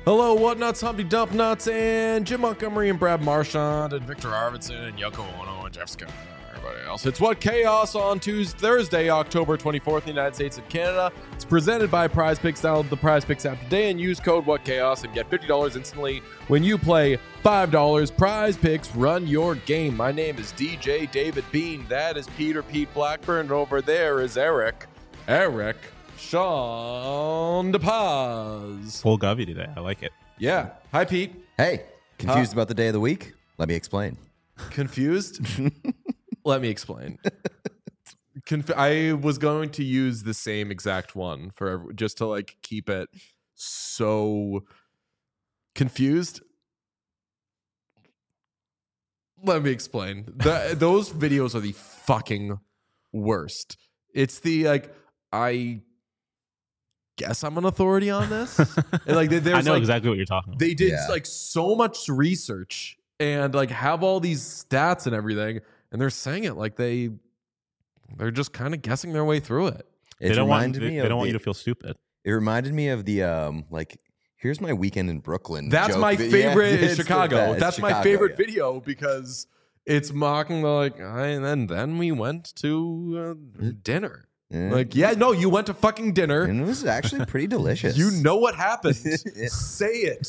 Hello, Whatnuts, Humpty Dump Nuts, and Jim Montgomery and Brad Marchand and Victor Arvidsson and Yoko Ono and Jeff Scott and everybody else. It's What Chaos on Thursday, October 24th in the United States and Canada. It's presented by Prize Picks. Download the Prize Picks app today and use code WhatChaos and get $50 instantly when you play $5. Prize Picks, run your game. My name is DJ David Bean. That is Pete Blackburn. And over there is Eric Sean DePaz. Full Govey today. I like it. Yeah. Hi, Pete. Hey, confused about the day of the week? Let me explain. Confused? Let me explain. I was going to use the same exact one for just to like keep it so confused. Let me explain. Those videos are the fucking worst. It's the like I guess I'm an authority on this. And like I know exactly what you're talking about. They did like so much research and like have all these stats and everything, and they're saying it like they're just kind of guessing their way through it. They don't want you to feel stupid. It reminded me of the like, here's my weekend in Brooklyn. That's joke. my favorite in It's Chicago. That's Chicago, my favorite video because it's mocking the like, and then we went to dinner. Like, yeah, no, you went to fucking dinner. And it was actually pretty delicious. You know what happened. Say it.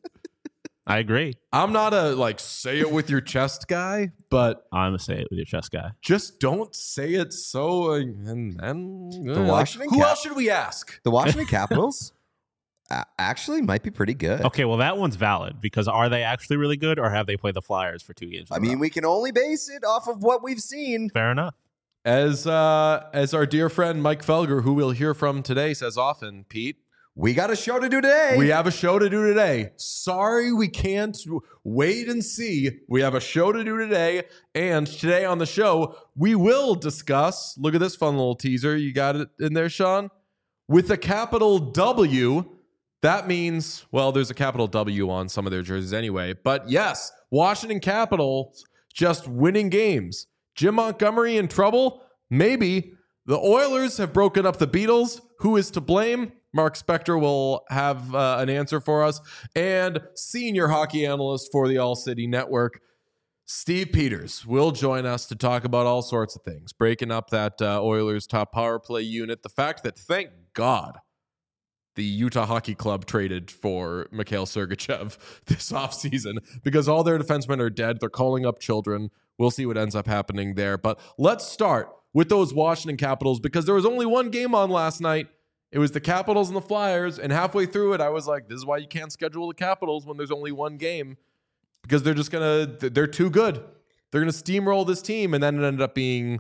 I agree. I'm not a like say it with your chest guy, but I'm a say it with your chest guy. just don't say it so. And then Washington who else should we ask? The Washington Capitals actually might be pretty good. Okay, well, that one's valid because are they actually really good or have they played the Flyers for 2 games? I mean, we can only base it off of what we've seen. Fair enough. As our dear friend Mike Felger, who we'll hear from today, says often, Pete, We got a show to do today. we have a show to do today. Sorry, we can't wait and see. We have a show to do today. And today on the show, we will discuss, look at this fun little teaser. You got it in there, Sean? With a capital W, that means, well, there's a capital W on some of their jerseys anyway. But yes, Washington Capitals just winning games. Jim Montgomery in trouble? Maybe. The Oilers have broken up the Beatles. Who is to blame? Mark Spector will have an answer for us. And senior hockey analyst for the All City Network, Steve Peters, will join us to talk about all sorts of things, breaking up that Oilers top power play unit. The fact that, thank God, the Utah Hockey Club traded for Mikhail Sergachev this offseason because all their defensemen are dead. They're calling up children. We'll see what ends up happening there. But let's start with those Washington Capitals because there was only one game on last night. It was the Capitals and the Flyers. And halfway through it, I was like, this is why you can't schedule the Capitals when there's only one game because they're too good. They're going to steamroll this team. And then it ended up being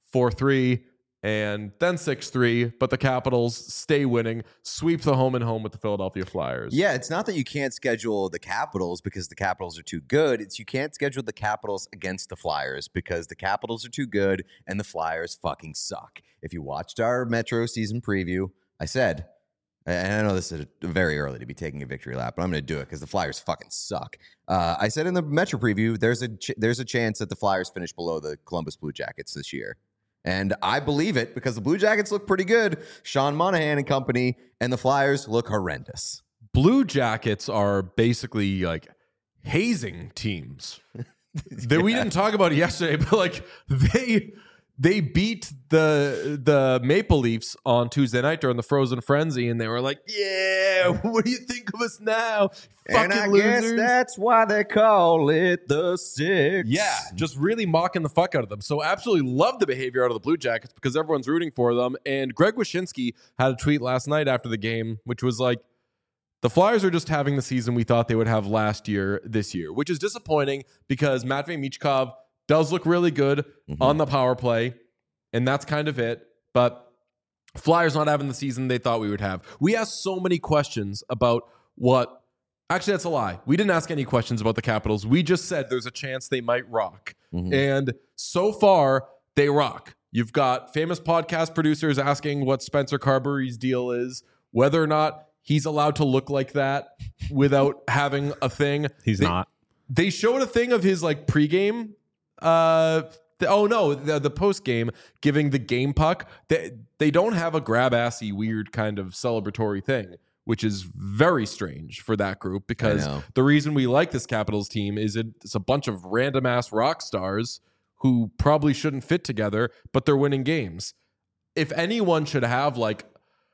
4-3 and then 6-3. But the Capitals stay winning, sweep the home and home with the Philadelphia Flyers. Yeah, it's not that you can't schedule the Capitals because the Capitals are too good. It's you can't schedule the Capitals against the Flyers because the Capitals are too good and the Flyers fucking suck. If you watched our Metro season preview, I said, and I know this is very early to be taking a victory lap, but I'm going to do it because the Flyers fucking suck. I said in the Metro preview, there's a chance that the Flyers finish below the Columbus Blue Jackets this year. And I believe it because the Blue Jackets look pretty good. Sean Monahan and company, and the Flyers look horrendous. Blue Jackets are basically like hazing teams. That we didn't talk about it yesterday, but like they beat the Maple Leafs on Tuesday night during the Frozen Frenzy, and they were like, "Yeah, what do you think of us now, And I guess that's why they call it the Six." Yeah, just really mocking the fuck out of them. So absolutely love the behavior out of the Blue Jackets because everyone's rooting for them. And Greg Wyshynski had a tweet last night after the game, which was like, the Flyers are just having the season we thought they would have last year this year, which is disappointing because Matvei Michkov does look really good on the power play, and that's kind of it. But Flyers not having the season they thought we would have. We asked so many questions about what... Actually, that's a lie. We didn't ask any questions about the Capitals. We just said there's a chance they might rock. And so far, they rock. You've got famous podcast producers asking what Spencer Carberry's deal is, whether or not he's allowed to look like that without having a thing. He's not. They showed a thing of his like pregame. The post game giving the game puck. They don't have a grab assy weird kind of celebratory thing, which is very strange for that group because know. the reason we like this Capitals team is it's a bunch of random ass rock stars who probably shouldn't fit together, but they're winning games. If anyone should have like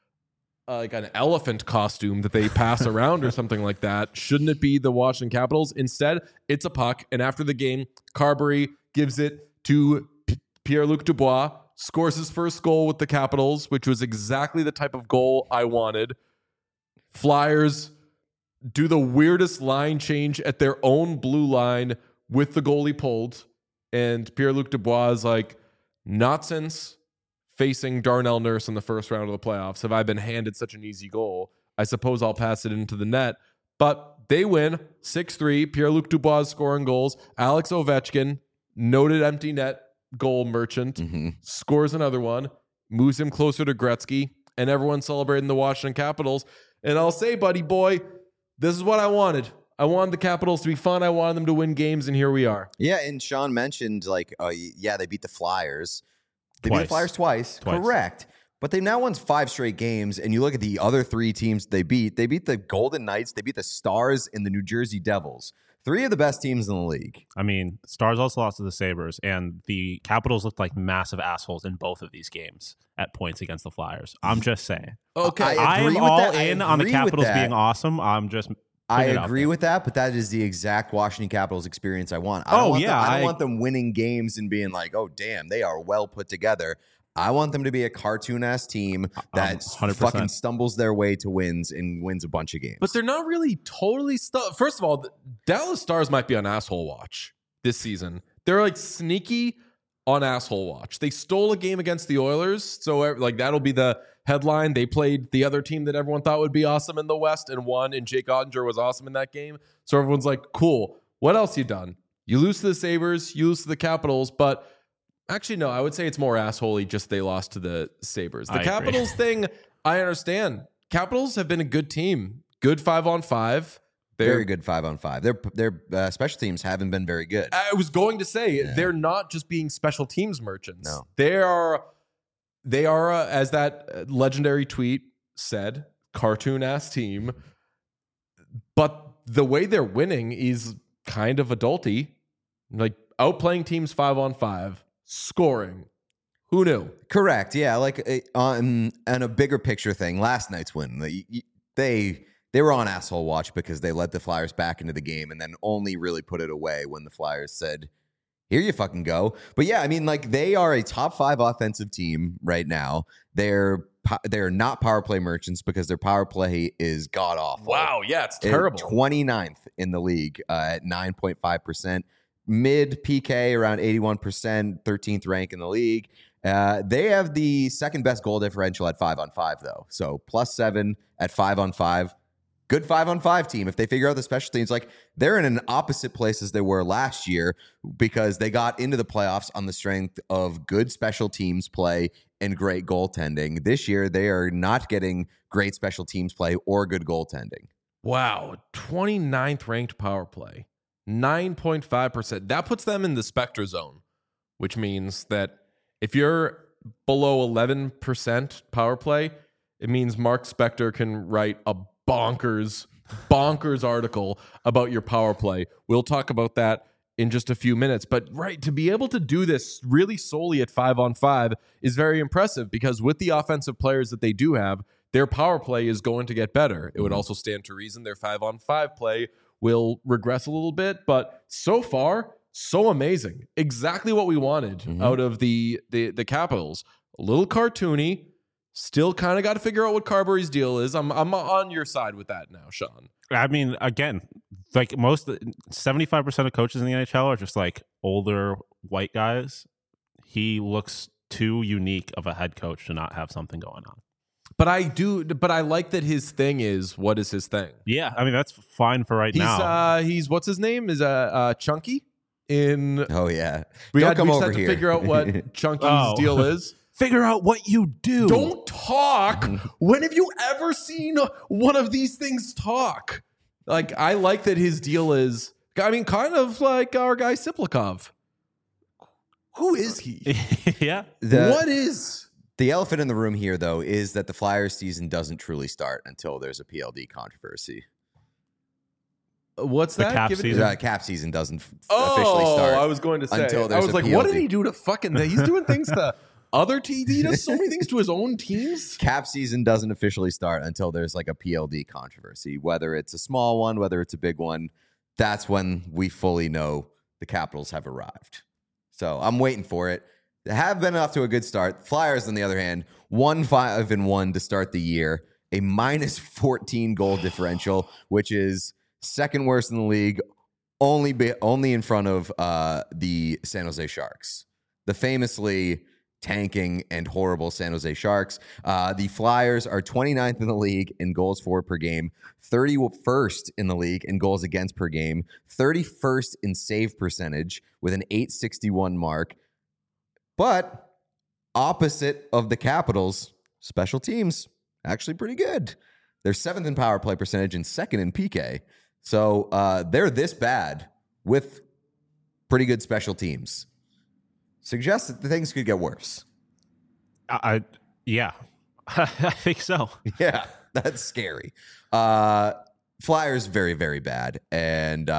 an elephant costume that they pass around or something like that, shouldn't it be the Washington Capitals? Instead, it's a puck, and after the game, Carbery gives it to Pierre-Luc Dubois, scores his first goal with the Capitals, which was exactly the type of goal I wanted. Flyers do the weirdest line change at their own blue line with the goalie pulled, and Pierre-Luc Dubois is like, not since facing Darnell Nurse in the first round of the playoffs have I been handed such an easy goal. I suppose I'll pass it into the net. But they win 6-3. Pierre-Luc Dubois scoring goals. Alex Ovechkin, noted empty net goal merchant, scores another one, moves him closer to Gretzky, and everyone's celebrating the Washington Capitals. And I'll say, buddy boy, this is what I wanted. I wanted the Capitals to be fun. I wanted them to win games, and here we are. Yeah, and Sean mentioned, like, they beat the Flyers. They beat Twice. the Flyers twice. Correct. But they've now won 5 straight games, and you look at the other 3 teams they beat the Golden Knights, they beat the Stars, and the New Jersey Devils. 3 of the best teams in the league. I mean, Stars also lost to the Sabres, and the Capitals looked like massive assholes in both of these games at points against the Flyers. I'm just saying. Okay. I am all in on the Capitals being awesome. I'm just... I agree with that, but that is the exact Washington Capitals experience I want. I don't want them winning games and being like, oh, damn, they are well put together. I want them to be a cartoon-ass team that 100%. fucking stumbles their way to wins and wins a bunch of games. But they're not really totally First of all, the Dallas Stars might be on asshole watch this season. They're like sneaky on asshole watch. They stole a game against the Oilers, so like that'll be the headline. They played the other team that everyone thought would be awesome in the West and won, and Jake Ottinger was awesome in that game. So everyone's like, cool. What else you done? You lose to the Sabres, you lose to the Capitals, but actually, no, I would say it's more assholey just they lost to the Sabres. The Capitals thing, I understand. Capitals have been a good team. Good 5-on-5. Very good 5-on-5. Their special teams haven't been very good. I was going to say, they're not just being special teams merchants. No. They are, as that legendary tweet said, cartoon-ass team. But the way they're winning is kind of adulty. Like, outplaying teams 5-on-5, scoring. Who knew? Correct. Yeah, like on a bigger picture thing, last night's win, they were on asshole watch because they let the Flyers back into the game and then only really put it away when the Flyers said, here you fucking go. But yeah, I mean, like, they are a top 5 offensive team right now. They're not power play merchants because their power play is god awful. Wow, yeah, it's terrible. 29th in the league at 9.5%. Mid PK around 81%, 13th rank in the league. They have the second best goal differential at 5-on-5 though. So +7 at 5-on-5. Good 5-on-5 team. If they figure out the special teams, like, they're in an opposite place as they were last year because they got into the playoffs on the strength of good special teams play and great goaltending. This year, they are not getting great special teams play or good goaltending. Wow, 29th ranked power play, 9.5%. That puts them in the Spectre zone, which means that if you're below 11% power play, it means Mark Spector can write a bonkers article about your power play. We'll talk about that in just a few minutes. But right, to be able to do this really solely at 5-on-5 is very impressive because with the offensive players that they do have, their power play is going to get better. It would also stand to reason their 5-on-5 play will regress a little bit, but so far, so amazing. Exactly what we wanted out of the Capitals. A little cartoony. Still kind of got to figure out what Carbery's deal is. I'm on your side with that now, Sean. I mean, again, like 75% of coaches in the NHL are just like older white guys. He looks too unique of a head coach to not have something going on. But I like that his thing is, what is his thing? Yeah, I mean, that's fine for right now. He's what's his name? Is Chunky in Oh yeah. We Don't had come over to here. figure out what Chunky's deal is. Figure out what you do. Don't talk. When have you ever seen one of these things talk? Like, I like that his deal is, I mean, kind of like our guy Siplikov. Who is he? Yeah. What is The elephant in the room here, though, is that the Flyers season doesn't truly start until there's a PLD controversy. What's The that? cap Give it- season? Cap season doesn't officially start. I was going to say. until I there's was a like, what did PLD. he do to fucking? He's doing things to other teams. He does so many things to his own teams. Cap season doesn't officially start until there's like a PLD controversy, whether it's a small one, whether it's a big one. That's when we fully know the Capitals have arrived. So I'm waiting for it. They have been off to a good start. Flyers, on the other hand, 1-5-1 to start the year, a minus 14 goal differential, which is second worst in the league, only in front of the San Jose Sharks, the famously tanking and horrible San Jose Sharks. The Flyers are 29th in the league in goals for per game, 31st in the league in goals against per game, 31st in save percentage with an .861 mark. But opposite of the Capitals, special teams, actually pretty good. They're 7th in power play percentage and 2nd in PK. So they're this bad with pretty good special teams. Suggests that things could get worse. Yeah, I think so. Yeah, that's scary. Flyers very, very bad. And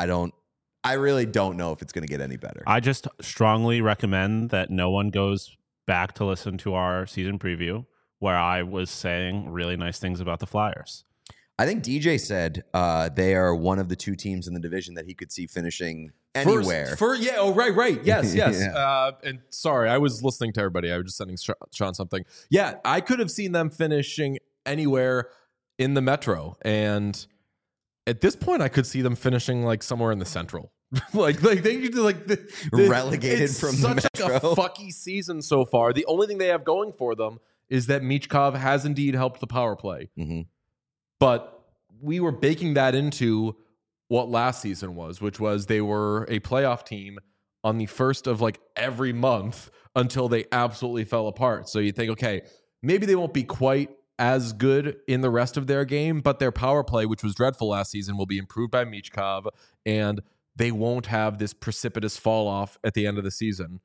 I really don't know if it's going to get any better. I just strongly recommend that no one goes back to listen to our season preview where I was saying really nice things about the Flyers. I think DJ said they are one of the two teams in the division that he could see finishing anywhere. Right. Yes. Yeah. And sorry, I was listening to everybody. I was just sending Sean something. Yeah, I could have seen them finishing anywhere in the Metro, and at this point, I could see them finishing like somewhere in the Central. like they could do like Relegated it's from such the like Metro. a fucky season so far. The only thing they have going for them is that Michkov has indeed helped the power play. Mm-hmm. But we were baking that into what last season was, which was they were a playoff team on the first of like every month until they absolutely fell apart. So you think, okay, maybe they won't be quite as good in the rest of their game, but their power play, which was dreadful last season, will be improved by Michkov, and they won't have this precipitous fall off at the end of the season.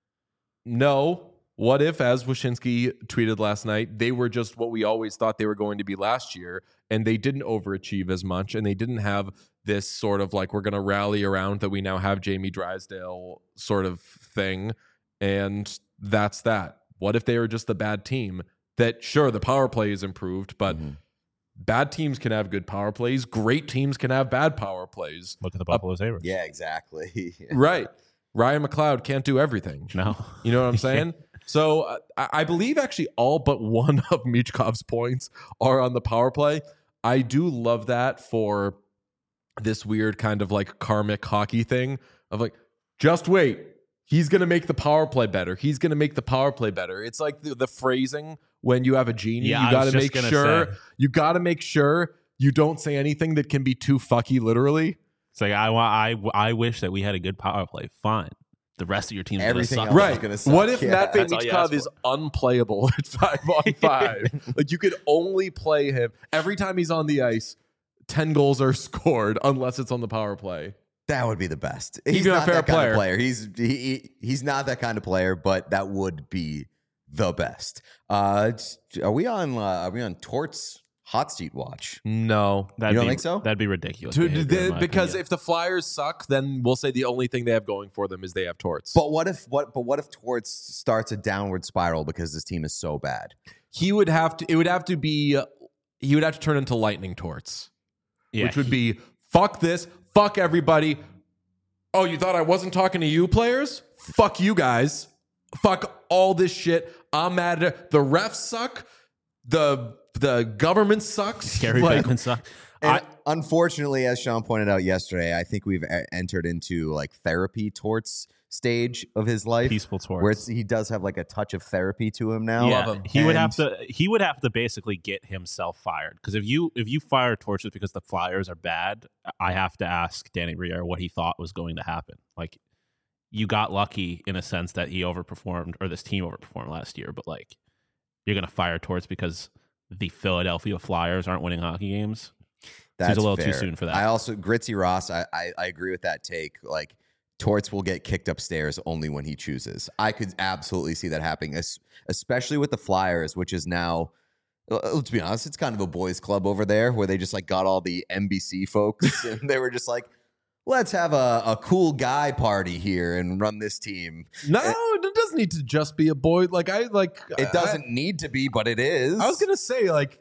No. What if, as Wyshynski tweeted last night, they were just what we always thought they were going to be last year, and they didn't overachieve as much, and they didn't have this sort of like, we're going to rally around that we now have Jamie Drysdale sort of thing, and that's that. What if they were just the bad team that, sure, the power play is improved, but bad teams can have good power plays. Great teams can have bad power plays. Look at the Buffalo Sabres. Yeah, exactly. Right. Ryan McLeod can't do everything. No. You know what I'm saying? So I believe actually all but one of Michkov's points are on the power play. I do love that for this weird kind of like karmic hockey thing of like, just wait. He's going to make the power play better. He's going to make the power play better. It's like the phrasing when you have a genie. Yeah, you got to make sure. say. You got to make sure you don't say anything that can be too fucky literally. It's like I wish that we had a good power play. Fine. The rest of your team's Everything gonna else suck. is Right. gonna suck. What if Yeah. Matvei That's all you ask Michkov is unplayable at 5-on-5? Like you could only play him every time he's on the ice. 10 goals are scored unless it's on the power play. That would be the best. He'd He's be a not fair that kind player. of player. He's not that kind of player, but that would be the best. Are we on Tort's hot seat watch? No. You don't think so? That'd be ridiculous. behavior, in my Because opinion. if the Flyers suck, then we'll say the only thing they have going for them is they have Torts. But what if Torts starts a downward spiral because this team is so bad? He would have to turn into lightning Torts, yeah, which would be fuck this, fuck everybody. Oh, you thought I wasn't talking to you players? Fuck you guys. Fuck all this shit. I'm mad at it. The refs suck. The government sucks. Gary Like, Bettman sucks. And unfortunately, as Sean pointed out yesterday, I think we've entered into like therapy Torts stage of his life. Peaceful Torts. Where he does have like a touch of therapy to him now. Yeah, Love him. he would And- have to basically get himself fired, because if you fire Torches because the Flyers are bad, I have to ask Danny Briere what he thought was going to happen. Like, you got lucky in a sense that he overperformed, or this team overperformed last year, but like, you're gonna fire Torts because the Philadelphia Flyers aren't winning hockey games. That's Seems a little fair. too soon for that. I also Gritzy Ross. I agree with that take. Like Torts will get kicked upstairs only when he chooses. I could absolutely see that happening, especially with the Flyers, which is now, let's be honest, it's kind of a boys club over there where they just like got all the NBC folks and they were just like, let's have a cool guy party here and run this team. No, it doesn't need to just be a boy. Like It doesn't need to be, but it is. I was gonna say like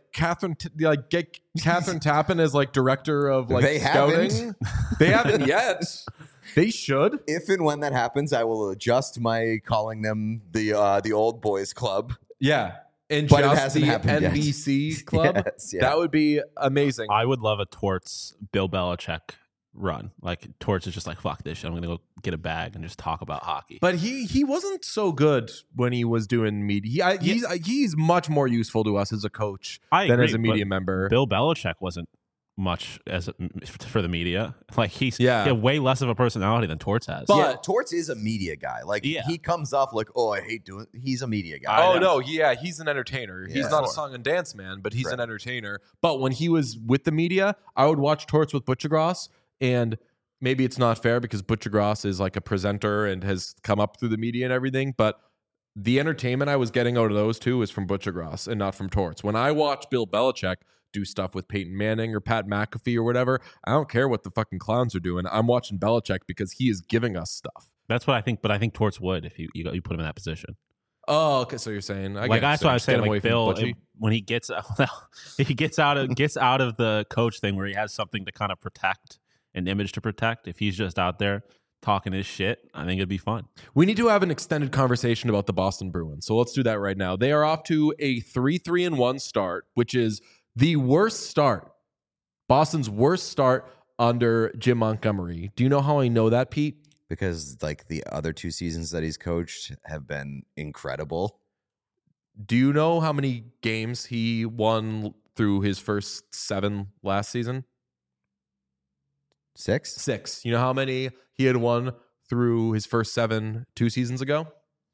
get Catherine Tappan as like director of like They scouting. haven't. They haven't yet. They should. If and when that happens, I will adjust my calling them the old boys club. Yeah. And But it just hasn't the happened yet. NBC club. Yes, yeah. That would be amazing. I would love a Torts Bill Belichick run. Like Torts is just like, fuck this shit. I'm gonna go get a bag and just talk about hockey. But he wasn't so good when he was doing media. He's much more useful to us as a coach I than agree, as a media but member. Bill Belichick wasn't much for the media. Like he Yeah. had way less of a personality than Torts has. But- Yeah, Torts is a media guy. Like Yeah. he comes off like, oh, I hate doing. He's a media guy. I Oh know. no, he's an entertainer. Yeah. He's not a Sure. song and dance man, but he's Right. an entertainer. But when he was with the media, I would watch Torts with Butchergross, and maybe it's not fair because Butchergross is like a presenter and has come up through the media and everything, but the entertainment I was getting out of those two is from Butchergross and not from Torts. When I watch Bill Belichick do stuff with Peyton Manning or Pat McAfee or whatever, I don't care what the fucking clowns are doing. I'm watching Belichick because he is giving us stuff. That's what I think. But I think Torts would if you put him in that position. Oh, okay. So you're saying Like that's what I was saying. Like Bill, when he gets he gets out of the coach thing where he has something to kind of protect, an image to protect. If he's just out there talking his shit, I think it'd be fun. We need to have an extended conversation about the Boston Bruins. So let's do that right now. They are off to a 3-3-1 start, which is the worst start. Boston's worst start under Jim Montgomery. Do you know how I know that, Pete? Because like the other two seasons that he's coached have been incredible. Do you know how many games he won through his first 7 last season? 6? 6. You know how many he had won through his first 7 2 seasons ago?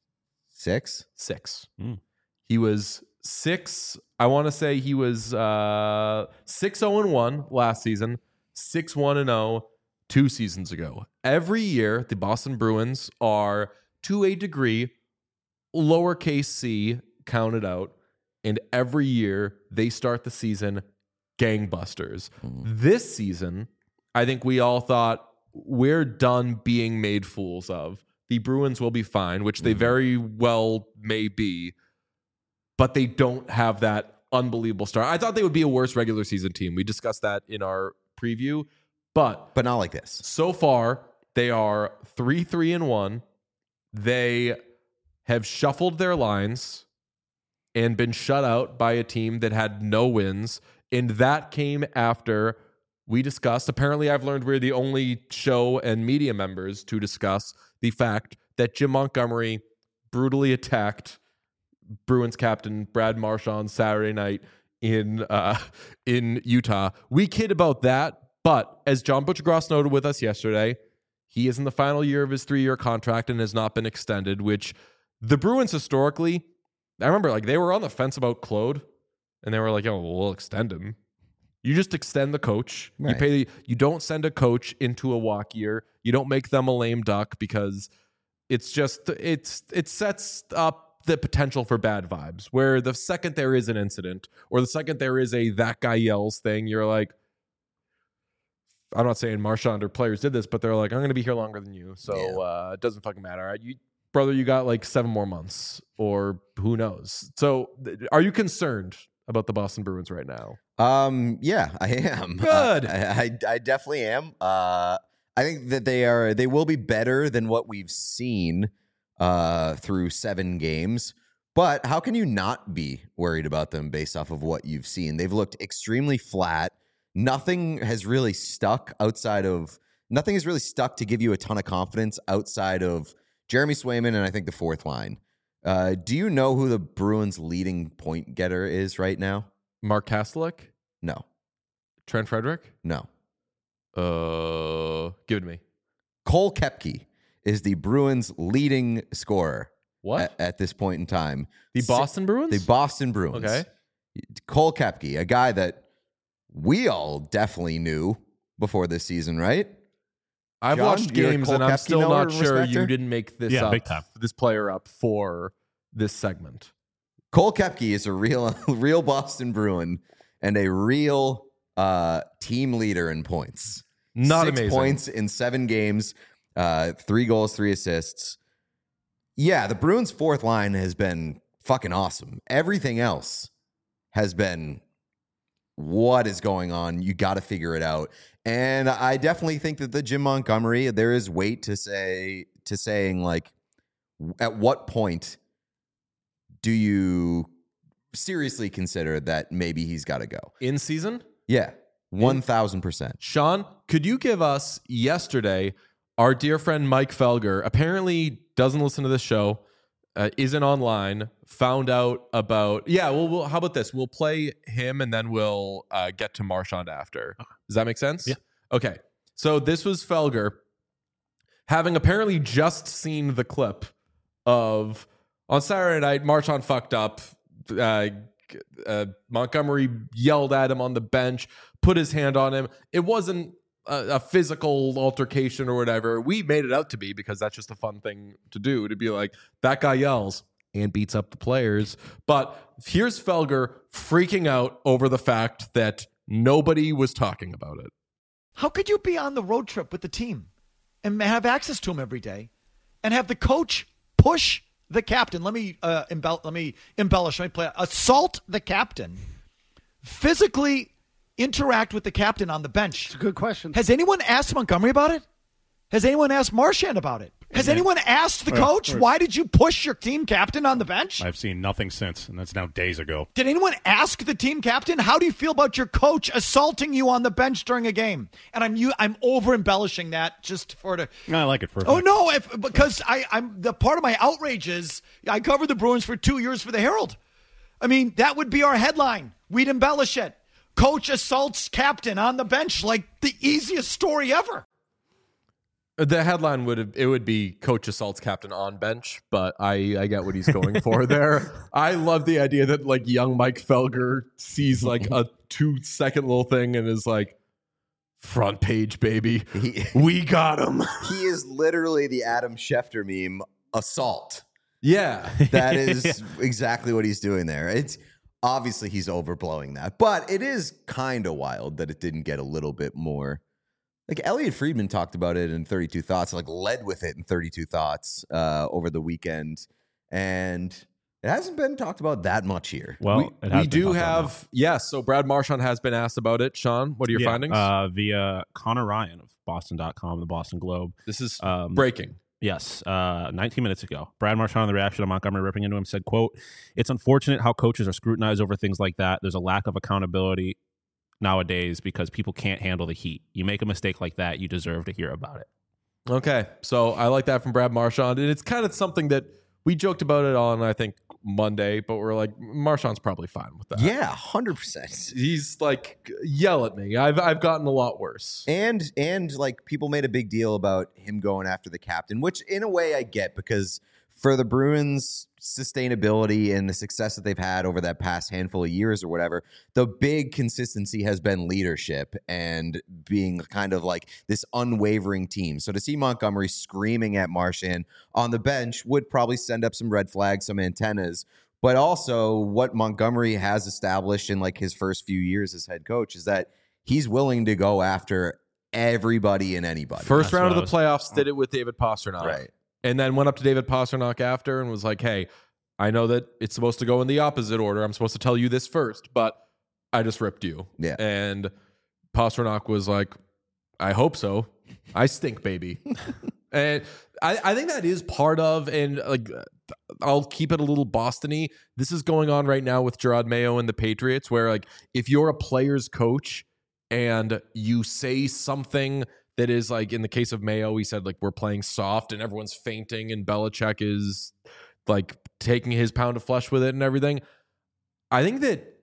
6? 6. Mm. He was 6. I want to say he was 6-0-1 last season, 6-1-0 2 seasons ago. Every year, the Boston Bruins are, to a degree, lowercase c counted out, and every year they start the season gangbusters. This season, I think we all thought we're done being made fools of. The Bruins will be fine, which they very well may be, but they don't have that unbelievable start. I thought they would be a worse regular season team. We discussed that in our preview, but But not like this. so far they are 3-3-1. They have shuffled their lines and been shut out by a team that had no wins, and that came after we discussed. Apparently, I've learned we're the only show and media members to discuss the fact that Jim Montgomery brutally attacked Bruins captain Brad Marchand Saturday night in Utah. We kid about that, but as John Butchergross noted with us yesterday, he is in the final year of his 3-year contract and has not been extended, which the Bruins historically, I remember like they were on the fence about Claude, and they were like, "Oh, we'll extend him." You just extend the coach. Right. You don't send a coach into a walk year. You don't make them a lame duck because it sets up the potential for bad vibes. Where the second there is an incident or the second there is a that guy yells thing, you're like, I'm not saying Marchand or players did this, but they're like, I'm going to be here longer than you, so it doesn't fucking matter. Brother, you got like 7 more months, or who knows. So, are you concerned about the Boston Bruins right now? Yeah, I am. Good. I definitely am. I think that they will be better than what we've seen through 7 games. But how can you not be worried about them based off of what you've seen? They've looked extremely flat. Nothing has really stuck to give you a ton of confidence outside of Jeremy Swayman and I think the fourth line. Do you know who the Bruins' leading point getter is right now? Mark Kastelik? No. Trent Frederick? No. Give it to me. Cole Koepke is the Bruins' leading scorer. What? At this point in time. The Boston Bruins? The Boston Bruins. Okay. Cole Koepke, a guy that we all definitely knew before this season, right? I've John, watched you're a games Cole and I'm Koepke still knower not and sure respecter? you didn't make this Yeah, up, big time. this player up for this segment. Cole Koepke is a real Boston Bruin and a real team leader in points. Not 6 amazing. points in 7 games, 3 goals, 3 assists. Yeah, the Bruins' fourth line has been fucking awesome. Everything else has been, what is going on? You got to figure it out. And I definitely think that the Jim Montgomery, there is weight to saying like, at what point do you seriously consider that maybe he's got to go? In season? Yeah, 1,000%. Sean, could you give us yesterday, our dear friend Mike Felger apparently doesn't listen to this show, isn't online, found out about, we'll how about this? We'll play him and then we'll get to Marchand after. Does that make sense? Yeah. Okay. So this was Felger having apparently just seen the clip of on Saturday night, Marchand fucked up. Montgomery yelled at him on the bench, put his hand on him. It wasn't a physical altercation or whatever. We made it out to be because that's just a fun thing to do, to be like, that guy yells and beats up the players. But here's Felger freaking out over the fact that nobody was talking about it. How could you be on the road trip with the team and have access to him every day and have the coach push the captain? Let me embellish. Let me play. Assault the captain. Physically interact with the captain on the bench. It's a good question. Has anyone asked Montgomery about it? Has anyone asked Marchand about it? Has anyone asked the coach, why did you push your team captain on the bench? I've seen nothing since, and that's now days ago. Did anyone ask the team captain, how do you feel about your coach assaulting you on the bench during a game? And I'm over embellishing that just for the. I like it for. Oh no! Because I'm the part of my outrage is I covered the Bruins for 2 years for the Herald. I mean, that would be our headline. We'd embellish it. Coach assaults captain on the bench, like the easiest story ever. The headline would be coach assaults captain on bench, but I get what he's going for there. I love the idea that like young Mike Felger sees like a 2-second little thing and is like, front page, baby. We got him. He is literally the Adam Schefter meme, assault. Yeah. That is exactly what he's doing there. It's obviously he's overblowing that, but it is kind of wild that it didn't get a little bit more. Like Elliot Friedman talked about it in 32 Thoughts, like led with it in 32 Thoughts over the weekend. And it hasn't been talked about that much here. Well, we do have, yes. So Brad Marchand has been asked about it. Sean, what are your findings? Via Connor Ryan of Boston.com, the Boston Globe. This is breaking. Yes, 19 minutes ago. Brad Marchand, on the reaction to Montgomery ripping into him, said, quote, "It's unfortunate how coaches are scrutinized over things like that. There's a lack of accountability nowadays because people can't handle the heat. You make a mistake like that, you deserve to hear about it." Okay, so I like that from Brad Marchand. And it's kind of something that we joked about it on, I think, Monday, but we're like, Marchand's probably fine with that. Yeah, 100%. He's like, yell at me. I've gotten a lot worse. And like people made a big deal about him going after the captain, which in a way I get, because for the Bruins' sustainability and the success that they've had over that past handful of years or whatever, the big consistency has been leadership and being kind of like this unwavering team. So to see Montgomery screaming at Marchand on the bench would probably send up some red flags, some antennas. But also what Montgomery has established in like his first few years as head coach is that he's willing to go after everybody and anybody. First round of the playoffs, did it with David Pastrnak. Right. And then went up to David Pastrnak after and was like, hey, I know that it's supposed to go in the opposite order. I'm supposed to tell you this first, but I just ripped you. Yeah. And Pastrnak was like, I hope so. I stink, baby. And I think that is part of, and like, I'll keep it a little Boston-y. This is going on right now with Gerard Mayo and the Patriots, where like, if you're a player's coach and you say something that is like, in the case of Mayo, he said like, we're playing soft and everyone's fainting and Belichick is like taking his pound of flesh with it and everything. I think that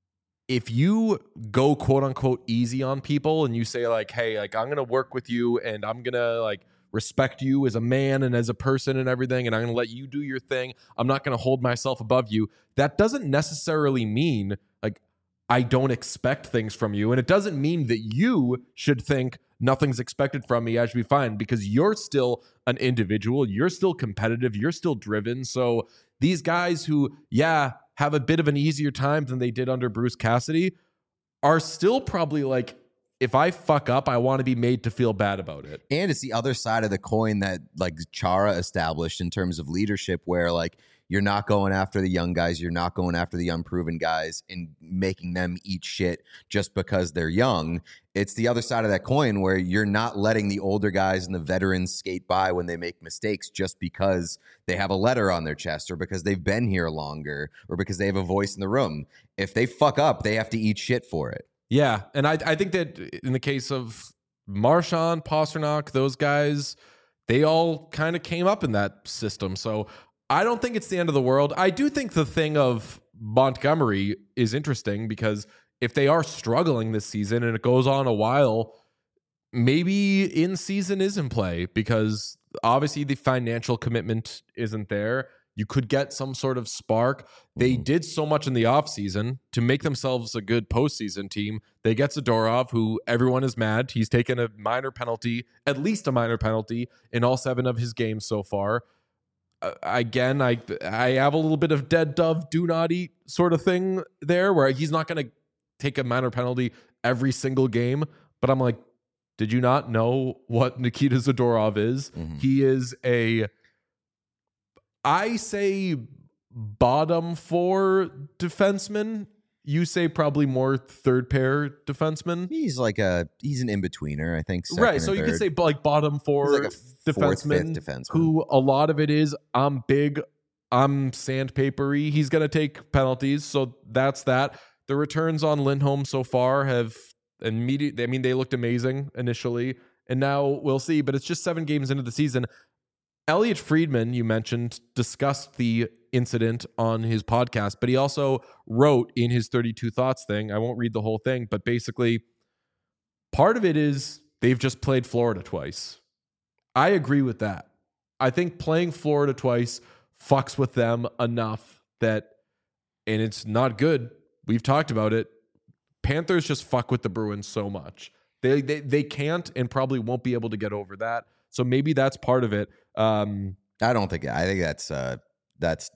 if you go quote unquote easy on people and you say like, hey, like I'm going to work with you and I'm going to like respect you as a man and as a person and everything, and I'm going to let you do your thing. I'm not going to hold myself above you. That doesn't necessarily mean like I don't expect things from you. And it doesn't mean that you should think nothing's expected from me, I should be fine, because you're still an individual. You're still competitive. You're still driven. So these guys who, have a bit of an easier time than they did under Bruce Cassidy are still probably like, if I fuck up, I want to be made to feel bad about it. And it's the other side of the coin that like Chara established in terms of leadership, where like you're not going after the young guys, you're not going after the unproven guys and making them eat shit just because they're young. It's the other side of that coin where you're not letting the older guys and the veterans skate by when they make mistakes just because they have a letter on their chest or because they've been here longer or because they have a voice in the room. If they fuck up, they have to eat shit for it. Yeah, and I think that in the case of Marchand, Pasternak, those guys, they all kind of came up in that system. So I don't think it's the end of the world. I do think the thing of Montgomery is interesting because if they are struggling this season and it goes on a while, maybe in season is in play because obviously the financial commitment isn't there. You could get some sort of spark. They did so much in the offseason to make themselves a good postseason team. They get Zadorov, who everyone is mad. He's taken a minor penalty, at least a minor penalty, in all 7 of his games so far. Again, I have a little bit of dead dove, do not eat sort of thing there, where he's not going to take a minor penalty every single game. But I'm like, did you not know what Nikita Zadorov is? He is I say bottom 4 defenseman. You say probably more third pair defenseman. He's an in-betweener, I think. Right, so you could say like bottom 4 like a defenseman, fifth defenseman, who a lot of it is I'm big, I'm sandpapery. He's going to take penalties, so that's that. The returns on Lindholm so far have immediately, I mean, they looked amazing initially, and now we'll see, but it's just 7 games into the season. Elliot Friedman, you mentioned, discussed the incident on his podcast, but he also wrote in his 32 Thoughts thing, I won't read the whole thing, but basically part of it is they've just played Florida twice. I agree with that. I think playing Florida twice fucks with them enough that, and it's not good. We've talked about it. Panthers just fuck with the Bruins so much. They can't and probably won't be able to get over that. So maybe that's part of it. I think that's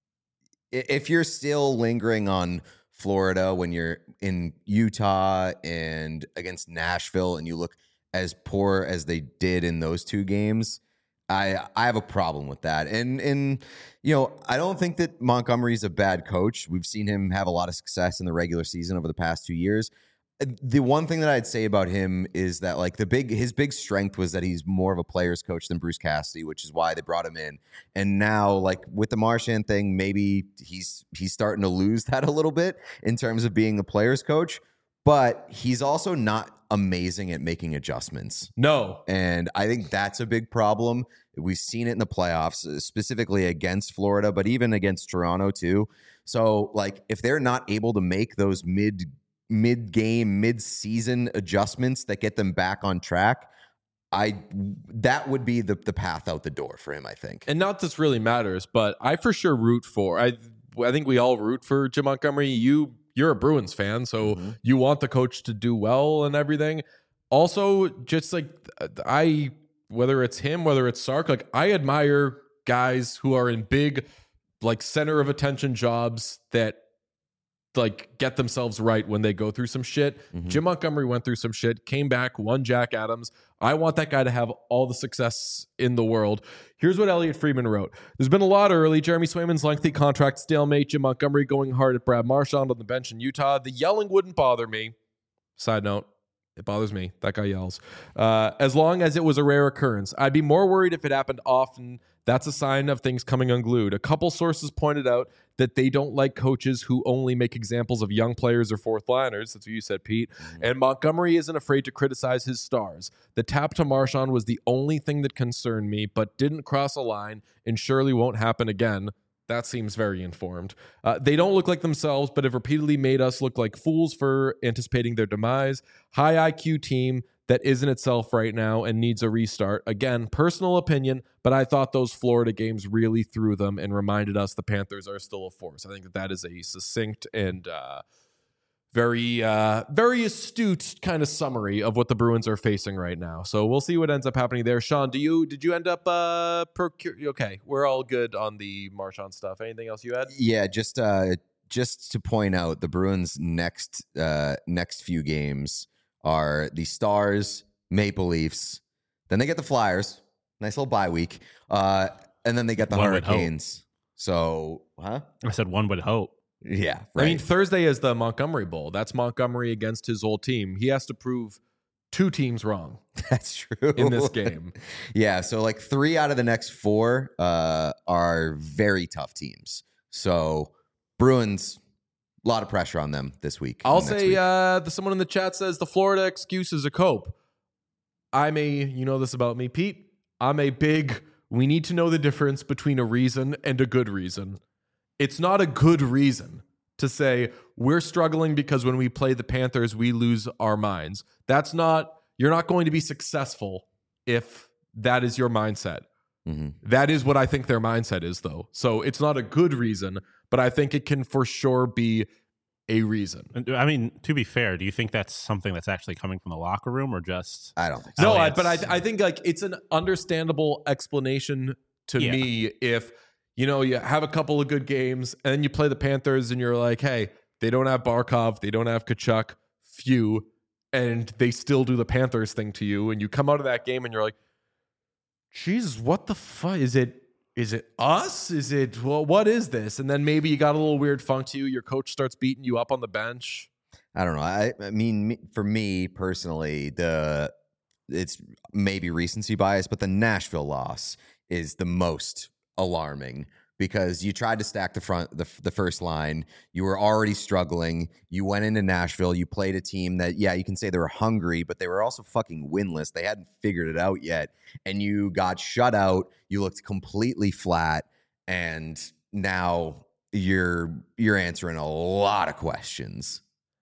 if you're still lingering on Florida when you're in Utah and against Nashville and you look as poor as they did in those 2 games, I have a problem with that. And I don't think that Montgomery's a bad coach. We've seen him have a lot of success in the regular season over the past 2 years. The one thing that I'd say about him is that like his big strength was that he's more of a player's coach than Bruce Cassidy, which is why they brought him in. And now like with the Marchand thing, maybe he's starting to lose that a little bit in terms of being the player's coach, but he's also not amazing at making adjustments. No. And I think that's a big problem. We've seen it in the playoffs, specifically against Florida, but even against Toronto too. So like if they're not able to make those mid-game, mid-season adjustments that get them back on track, that would be the path out the door for him, I think. And not this really matters, but I for sure root for, I think we all root for Jim Montgomery. You're a Bruins fan, so you want the coach to do well and everything. Also, just like whether it's him, whether it's Sark, like I admire guys who are in big, like center of attention jobs that like get themselves right when they go through some shit. Jim Montgomery went through some shit, came back, won Jack Adams. I want that guy to have all the success in the world. Here's what Elliot Friedman wrote. There's been a lot early. Jeremy Swayman's lengthy contract stalemate, Jim Montgomery going hard at Brad Marchand on the bench in Utah. The yelling wouldn't bother me. Side note, it bothers me. That guy yells. As long as it was a rare occurrence. I'd be more worried if it happened often. That's a sign of things coming unglued. A couple sources pointed out that they don't like coaches who only make examples of young players or fourth liners. That's what you said, Pete. And Montgomery isn't afraid to criticize his stars. The tap to Marchand was the only thing that concerned me, but didn't cross a line and surely won't happen again. That seems very informed. They don't look like themselves, but have repeatedly made us look like fools for anticipating their demise. High IQ team that isn't itself right now and needs a restart. Again, personal opinion, but I thought those Florida games really threw them and reminded us the Panthers are still a force. I think that is a succinct and very astute kind of summary of what the Bruins are facing right now. So we'll see what ends up happening there. Sean, did you end up okay, we're all good on the Marchand stuff. Anything else you had? Yeah, just to point out, the Bruins' next few games are the Stars, Maple Leafs, then they get the Flyers, nice little bye week, and then they get the Hurricanes. So, I said one would hope. Yeah, right. I mean, Thursday is the Montgomery Bowl. That's Montgomery against his old team. He has to prove 2 teams wrong. That's true. In this game. Yeah, so like 3 out of the next 4 are very tough teams. So Bruins, a lot of pressure on them this week. I'll say someone in the chat says the Florida excuse is a cope. You know this about me, Pete. We need to know the difference between a reason and a good reason. It's not a good reason to say we're struggling because when we play the Panthers, we lose our minds. You're not going to be successful if that is your mindset. Mm-hmm. That is what I think their mindset is, though. So it's not a good reason, but I think it can for sure be a reason. I mean, to be fair, do you think that's something that's actually coming from the locker room or just... I don't think so. No, but I think like it's an understandable explanation to me if... You have a couple of good games, and then you play the Panthers, and you're like, hey, they don't have Barkov, they don't have Tkachuk, and they still do the Panthers thing to you, and you come out of that game, and you're like, Jesus, what the fuck? Is it us? What is this? And then maybe you got a little weird funk to you, your coach starts beating you up on the bench. I don't know. I mean, for me personally, it's maybe recency bias, but the Nashville loss is the most alarming because you tried to stack the first line. You were already struggling. You went into Nashville. You played a team that, you can say they were hungry, but they were also fucking winless. They hadn't figured it out yet. And you got shut out. You looked completely flat. And now you're answering a lot of questions.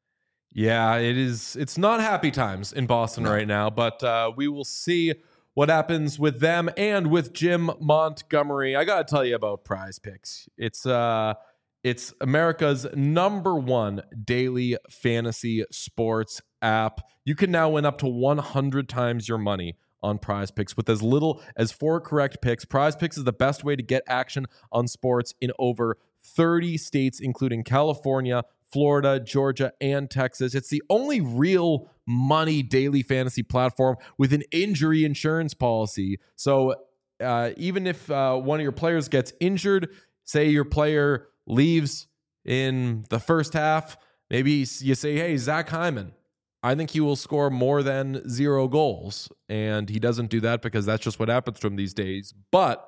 Yeah, it is. It's not happy times in Boston right now, but we will see what happens with them and with Jim Montgomery. I got to tell you about Prize Picks. It's America's #1 daily fantasy sports app. You can now win up to 100 times your money on Prize Picks with as little as 4 correct picks. Prize Picks is the best way to get action on sports in over 30 states, including California, Florida, Georgia, and Texas. It's the only real money daily fantasy platform with an injury insurance policy. So even if one of your players gets injured, say your player leaves in the first half, maybe you say, hey, Zach Hyman, I think he will score more than 0 goals. And he doesn't do that because that's just what happens to him these days. But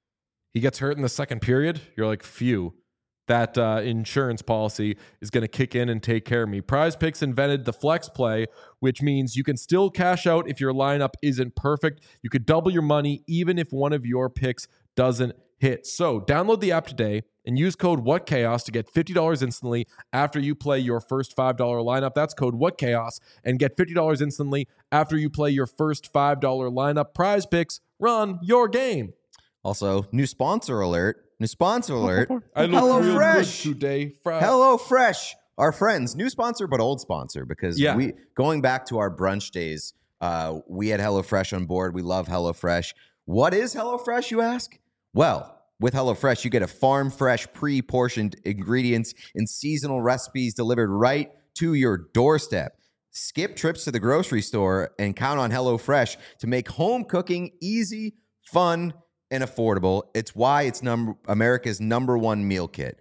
he gets hurt in the second period. You're like, phew. That insurance policy is going to kick in and take care of me. Prize Picks invented the flex play, which means you can still cash out if your lineup isn't perfect. You could double your money even if one of your picks doesn't hit. So download the app today and use code WhatChaos to get $50 instantly after you play your first $5 lineup. That's code WhatChaos and get $50 instantly after you play your first $5 lineup. Prize Picks, run your game. Also, new sponsor alert. I look HelloFresh real good today. HelloFresh, our friends, new sponsor but old sponsor because we going back to our brunch days. We had HelloFresh on board. We love HelloFresh. What is HelloFresh, you ask? Well, with HelloFresh, you get a farm fresh, pre-portioned ingredients and seasonal recipes delivered right to your doorstep. Skip trips to the grocery store and count on HelloFresh to make home cooking easy, fun, and affordable. It's why it's America's #1 meal kit.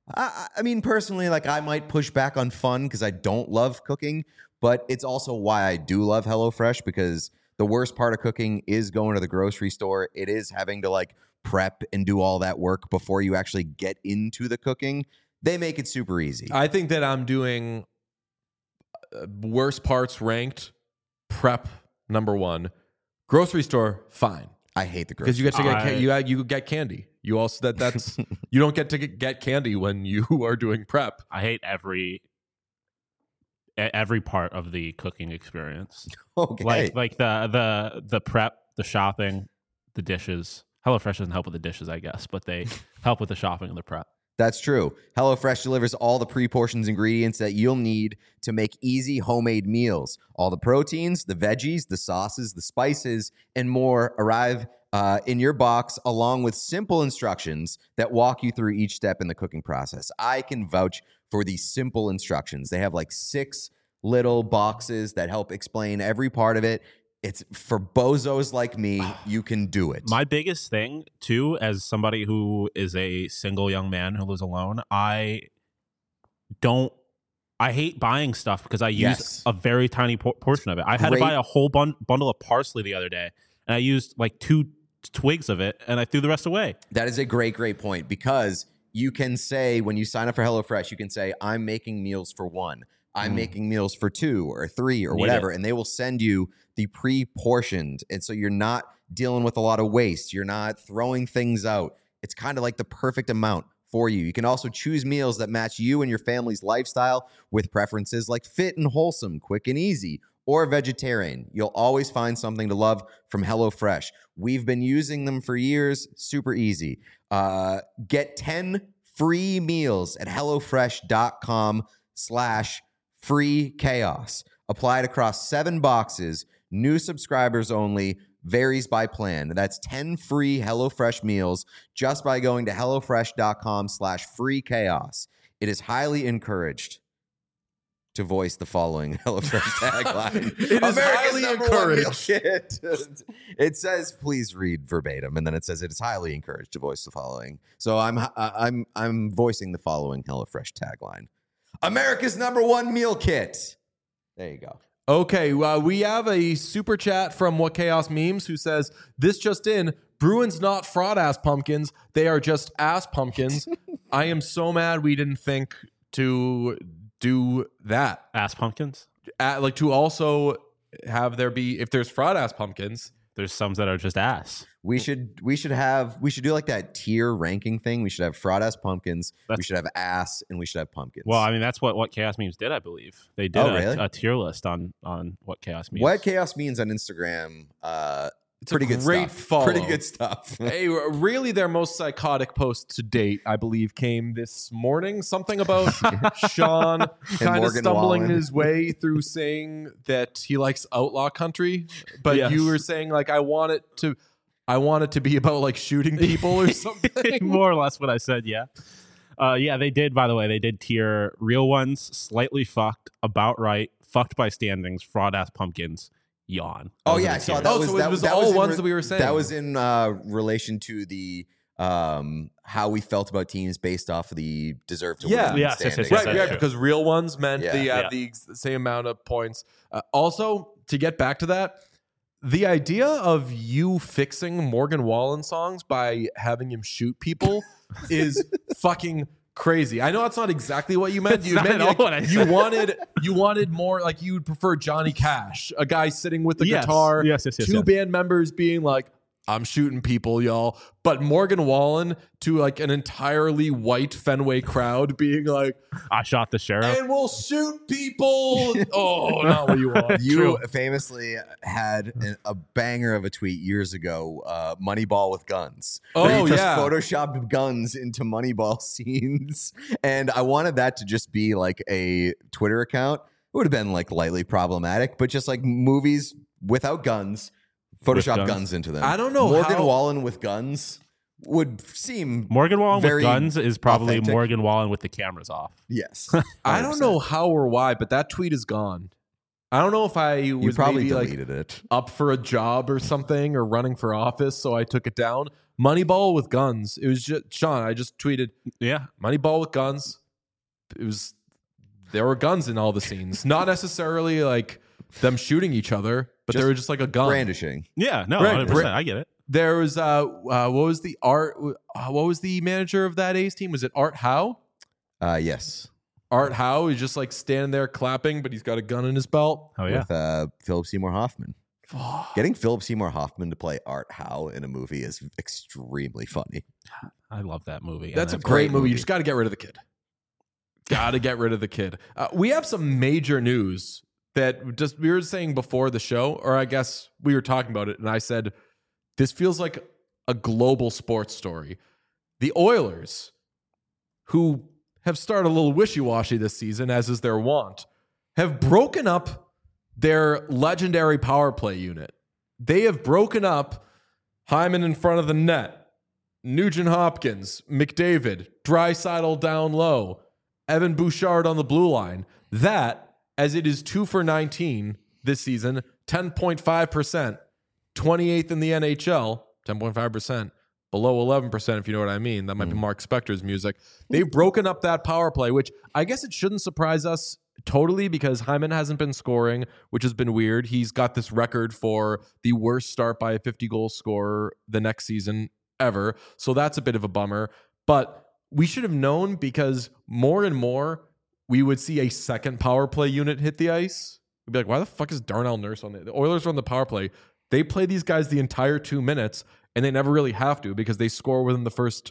I mean, personally, like I might push back on fun because I don't love cooking, but it's also why I do love HelloFresh because the worst part of cooking is going to the grocery store. It is having to like prep and do all that work before you actually get into the cooking. They make it super easy. I think that I'm doing worst parts ranked. Prep #1, grocery store fine. I hate the grocery because you get to get you get candy. You also that's you don't get to get candy when you are doing prep. I hate every part of the cooking experience. Okay, like the prep, the shopping, the dishes. HelloFresh doesn't help with the dishes, I guess, but they help with the shopping and the prep. That's true. HelloFresh delivers all the pre-portioned ingredients that you'll need to make easy homemade meals. All the proteins, the veggies, the sauces, the spices, and more arrive in your box along with simple instructions that walk you through each step in the cooking process. I can vouch for these simple instructions. They have like 6 little boxes that help explain every part of it. It's for bozos like me. You can do it. My biggest thing, too, as somebody who is a single young man who lives alone, I hate buying stuff because I use a very tiny portion of it. I had to buy a whole bundle of parsley the other day, and I used like 2 twigs of it, and I threw the rest away. That is a great point, because you can say, when you sign up for HelloFresh, you can say, I'm making meals for 1. I'm making meals for 2 or 3 or whatever, and they will send you the pre-portioned. And so you're not dealing with a lot of waste. You're not throwing things out. It's kind of like the perfect amount for you. You can also choose meals that match you and your family's lifestyle with preferences like fit and wholesome, quick and easy, or vegetarian. You'll always find something to love from HelloFresh. We've been using them for years. Super easy. Get 10 free meals at HelloFresh.com/free chaos. Applied across 7 boxes. New subscribers only. Varies by plan. That's 10 free HelloFresh meals just by going to HelloFresh.com/free chaos. It is highly encouraged to voice the following HelloFresh tagline. It is highly encouraged. It says, please read verbatim, and then it says it is highly encouraged to voice the following. So I'm voicing the following HelloFresh tagline. America's #1 meal kit. There you go. Okay, we have a super chat from What Chaos Memes who says, this just in, Bruins not fraud ass pumpkins. They are just ass pumpkins. I am so mad we didn't think to do that. Ass pumpkins? Like to also have there be, if there's fraud ass pumpkins. There's some that are just ass. We should do like that tier ranking thing. We should have fraud ass pumpkins. We should have ass, and we should have pumpkins. Well, I mean, that's what Chaos Memes did, I believe. They did a tier list on What Chaos Memes. What Chaos Means on Instagram. It's pretty a good great stuff. follow. Pretty good stuff. Hey, really, their most psychotic post to date, I believe, came this morning. Something about Sean kind of Morgan stumbling Wallen. his way through saying that he likes outlaw country, but Yes. you were saying like, I want it to be about like shooting people or something. More or less what I said, yeah. Yeah, they did, by the way. They did tier real ones, slightly fucked, about right, fucked by standings, fraud ass pumpkins, yawn. Oh yeah, I saw that. Oh, so it was all ones that we were saying. That was in relation to the how we felt about teams based off of the deserve to Yeah. win Yes, standings. Right, that's yeah, true. because real ones meant Yeah. they have Yeah. the same amount of points. Also, to get back to that, the idea of you fixing Morgan Wallen songs by having him shoot people is fucking crazy. I know that's not exactly what you meant. That's You not meant at all what I you said. wanted more like you would prefer Johnny Cash, a guy sitting with the Yes. guitar, Yes, two yes. band members being like, I'm shooting people, y'all. But Morgan Wallen to like an entirely white Fenway crowd being like, I shot the sheriff. and we'll shoot people. Oh, not what you want. You famously had a banger of a tweet years ago, Moneyball with guns. where Oh, you just yeah. photoshopped guns into Moneyball scenes. And I wanted that to just be like a Twitter account. It would have been like lightly problematic, but just like movies without guns, Photoshop guns. guns into them. I don't know Morgan how- Wallen with guns would seem Morgan Wallen with very guns is probably authentic. Morgan Wallen with the cameras off. Yes. I don't 100%. know how or why, but that tweet is gone. I don't know if I You was probably maybe like deleted it. up for a job or something or running for office, so I took it down. Moneyball with guns. It was just Sean. I just tweeted Yeah. Moneyball with guns. There were guns in all the scenes, not necessarily like them shooting each other, but Just they were just like a gun. Brandishing. Yeah. No, Right, 100%. I get it. There was what was the manager of that A's team? Was it Art Howe? Yes. Art Howe is just like standing there clapping, but he's got a gun in his belt. Oh, yeah. With Philip Seymour Hoffman. Getting Philip Seymour Hoffman to play Art Howe in a movie is extremely funny. I love that movie. That's a And great movie. movie. You just got to get rid of the kid. Got to get rid of the kid. We have some major news that just we were saying before the show, or I guess we were talking about it, and I said this feels like a global sports story. The Oilers who have started a little wishy-washy this season, as is their wont, have broken up their legendary power play unit. They have broken up Hyman in front of the net, Nugent Hopkins, McDavid, Draisaitl down low, Evan Bouchard on the blue line. That, as it is 2 for 19 this season, 10.5%, 28th in the NHL, 10.5%, below 11%, if you know what I mean. That might be Mark Spector's music. They've broken up that power play, which I guess it shouldn't surprise us totally because Hyman hasn't been scoring, which has been weird. He's got this record for the worst start by a 50-goal scorer the next season ever. So that's a bit of a bummer. But we should have known because more and more we would see a second power play unit hit the ice. We'd be like, why the fuck is Darnell Nurse on the Oilers are on the power play? They play these guys the entire 2 minutes, and they never really have to because they score within the first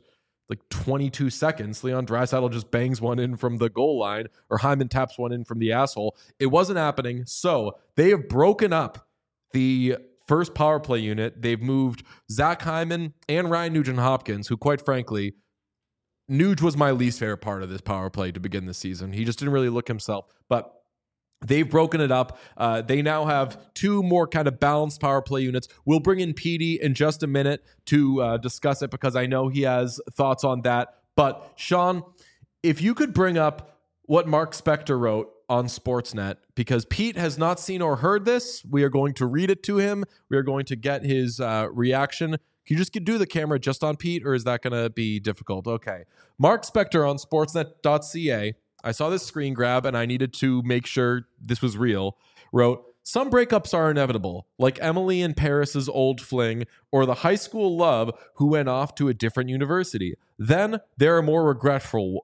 22 seconds. Leon Draisaitl just bangs one in from the goal line, or Hyman taps one in from the asshole. It wasn't happening. So they have broken up the first power play unit. They've moved Zach Hyman and Ryan Nugent-Hopkins, who quite frankly, Nuge was my least favorite part of this power play to begin the season. He just didn't really look himself. But they've broken it up. They now have 2 more kind of balanced power play units. We'll bring in Petey in just a minute to discuss it because I know he has thoughts on that. But Sean, if you could bring up what Mark Spector wrote on Sportsnet, because Pete has not seen or heard this, we are going to read it to him. We are going to get his reaction. Can you just do the camera just on Pete, or is that going to be difficult? Okay. Mark Spector on sportsnet.ca. I saw this screen grab and I needed to make sure this was real. Wrote, some breakups are inevitable, like Emily and Paris's old fling or the high school love who went off to a different university. Then there are more regretful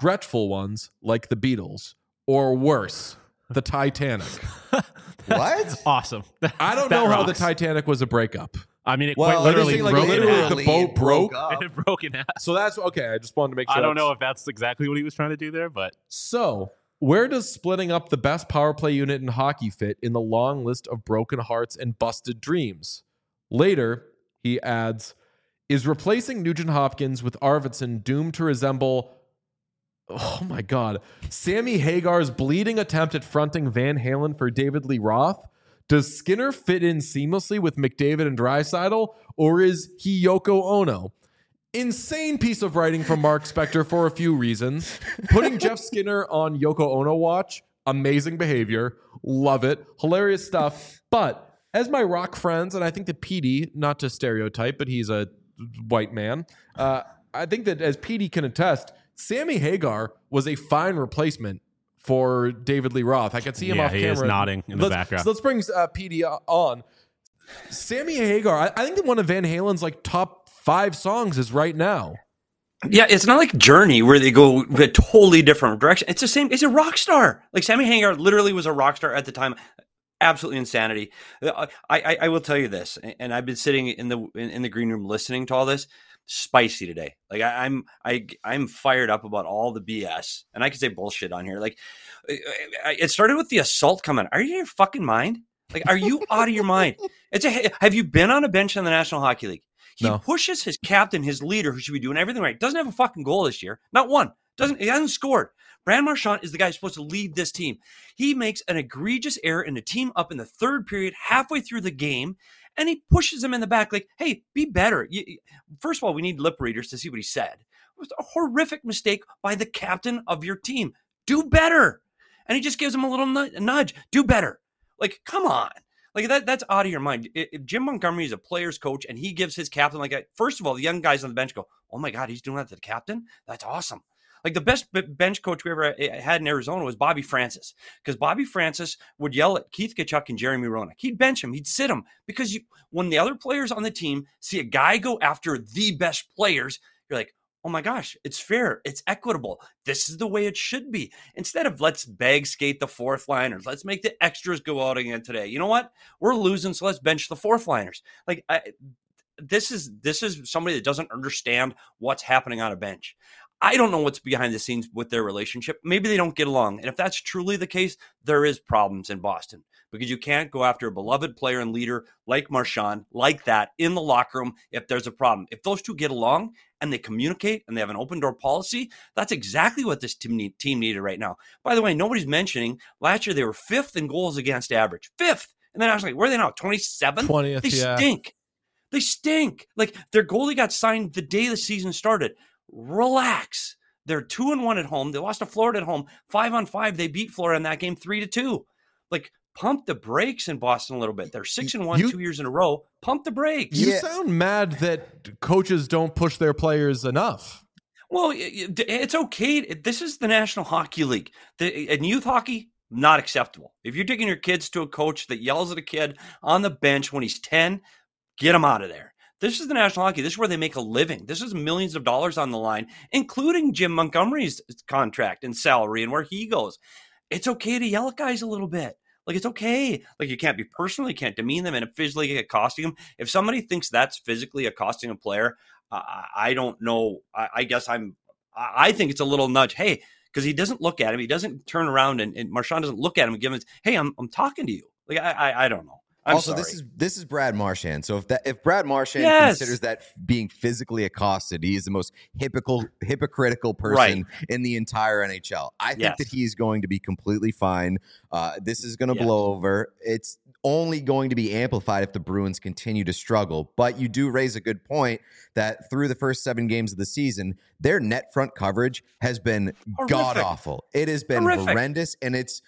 ones like the Beatles, or worse, the Titanic. What? Awesome. I don't know how the Titanic was a breakup. I mean, it Well, quite literally like broke in literally half. the boat broke. up. It broke in half. So that's okay. I just wanted to make sure. I don't know if that's exactly what he was trying to do there, but So, where does splitting up the best power play unit in hockey fit in the long list of broken hearts and busted dreams? Later, he adds, is replacing Nugent Hopkins with Arvidsson doomed to resemble, oh my God, Sammy Hagar's bleeding attempt at fronting Van Halen for David Lee Roth? Does Skinner fit in seamlessly with McDavid and Draisaitl, or is he Yoko Ono? Insane piece of writing from Mark Spector for a few reasons. Putting Jeff Skinner on Yoko Ono watch, amazing behavior. Love it. Hilarious stuff. But as my rock friends, and I think that Petey, not to stereotype, but he's a white man, I think that as Petey can attest, Sammy Hagar was a fine replacement for David Lee Roth. I could see him off camera. he is nodding in the background. So let's bring Petey on. Sammy Hagar, I think that one of Van Halen's top 5 songs is Right Now. Yeah, it's not like Journey where they go a totally different direction. It's the same. It's a rock star. Like Sammy Hagar literally was a rock star at the time. Absolutely insanity. I will tell you this, and I've been sitting in the green room listening to all this. Spicy today. Like I'm fired up about all the BS, and I can say bullshit on here. Like it started with the assault comment. Are you in your fucking mind? Like, are you out of your mind? Have you been on a bench in the National Hockey League? He pushes his captain, his leader, who should be doing everything right. Doesn't have a fucking goal this year. Not one. He hasn't scored. Brad Marchand is the guy who's supposed to lead this team. He makes an egregious error in the team up in the third period, halfway through the game, and he pushes him in the back like, hey, be better. First of all, we need lip readers to see what he said. It was a horrific mistake by the captain of your team. Do better. And he just gives him a little nudge. Do better. Like, come on. Like, that's out of your mind. If Jim Montgomery is a player's coach and he gives his captain first of all, the young guys on the bench go, oh my God, he's doing that to the captain? That's awesome. Like the best bench coach we ever had in Arizona was Bobby Francis, because Bobby Francis would yell at Keith Tkachuk and Jeremy Roenick. He'd bench him. He'd sit him because when the other players on the team see a guy go after the best players, you're like, oh my gosh, it's fair. It's equitable. This is the way it should be. Instead of let's bag skate the fourth liners. Let's make the extras go out again today. You know what? We're losing, so let's bench the fourth liners. Like this is somebody that doesn't understand what's happening on a bench. I don't know what's behind the scenes with their relationship. Maybe they don't get along. And if that's truly the case, there is problems in Boston. because you can't go after a beloved player and leader like Marchand like that in the locker room if there's a problem. If those two get along and they communicate and they have an open door policy, that's exactly what this team needed right now. By the way, nobody's mentioning last year they were 5th in goals against average. 5th. And then I was like, where are they now? 27th? 20th, They yeah. stink. They stink. Like, their goalie got signed the day the season started. Relax. They're 2-1 at home. They lost to Florida at home. 5-on-5. They beat Florida in that game 3-2. Like, pump the brakes in Boston a little bit. They're 6-1 2 years in a row. Pump the brakes. You sound mad that coaches don't push their players enough. Well, it's okay. This is the National Hockey League. In youth hockey, not acceptable. If you're taking your kids to a coach that yells at a kid on the bench when he's 10, get him out of there. This is the National Hockey. This is where they make a living. This is millions of dollars on the line, including Jim Montgomery's contract and salary and where he goes. It's okay to yell at guys a little bit. Like, it's okay. Like, you can't be personal. You can't demean them and physically accosting them. If somebody thinks that's physically accosting a player, I don't know. I guess I think it's a little nudge. Hey, because he doesn't look at him. He doesn't turn around and Marchand doesn't look at him and give him, hey, I'm talking to you. Like, I don't know. Also, this is Brad Marchand. So if Brad Marchand considers that being physically accosted, he is the most hypocritical person in the entire NHL. I think that he's going to be completely fine. This is going to blow over. It's only going to be amplified if the Bruins continue to struggle. But you do raise a good point that through the first 7 games of the season, their net front coverage has been god awful. It has been horrendous, and it's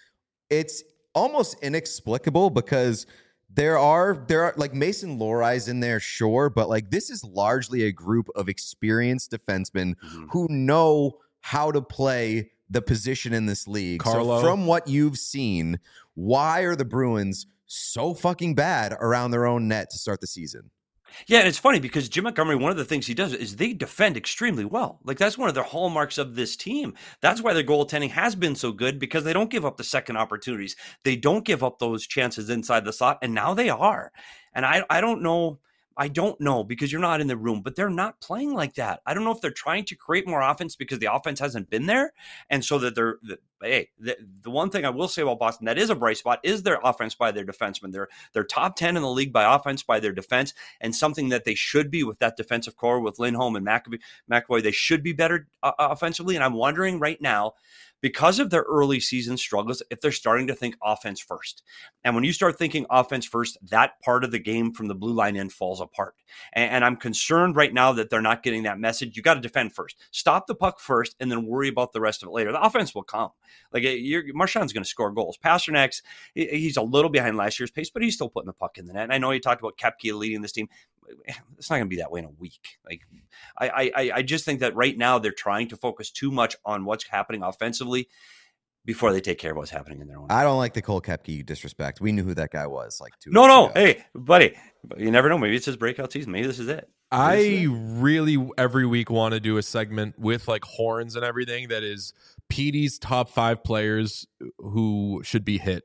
almost inexplicable because there are like Mason Lohrei's in there, sure, but like this is largely a group of experienced defensemen who know how to play the position in this league. Carlo. So from what you've seen, why are the Bruins so fucking bad around their own net to start the season? Yeah, and it's funny because Jim Montgomery, one of the things he does is they defend extremely well. Like, that's one of their hallmarks of this team. That's why their goaltending has been so good, because they don't give up the second opportunities. They don't give up those chances inside the slot, and now they are. And I don't know. I don't know because you're not in the room, but they're not playing like that. I don't know if they're trying to create more offense because the offense hasn't been there. And so that the one thing I will say about Boston that is a bright spot is their offense by their defensemen. They're top 10 in the league by offense by their defense, and something that they should be with that defensive core with Lindholm and McAvoy. They should be better offensively. And I'm wondering right now, because of their early season struggles, if they're starting to think offense first. And when you start thinking offense first, that part of the game from the blue line end falls apart. And I'm concerned right now that they're not getting that message. You got to defend first. Stop the puck first and then worry about the rest of it later. The offense will come. Like, Marchand's going to score goals. Pasternak's, he's a little behind last year's pace, but he's still putting the puck in the net. And I know you talked about Koepke leading this team. It's not going to be that way in a week. Like, I just think that right now they're trying to focus too much on what's happening offensively before they take care of what's happening in their own. I don't like the Cole Koepke disrespect. We knew who that guy was like 2 No. weeks ago. Hey, buddy, you never know. Maybe it's his breakout season. Maybe this is it. I really every week want to do a segment with like horns and everything that is Petey's top 5 players who should be hit.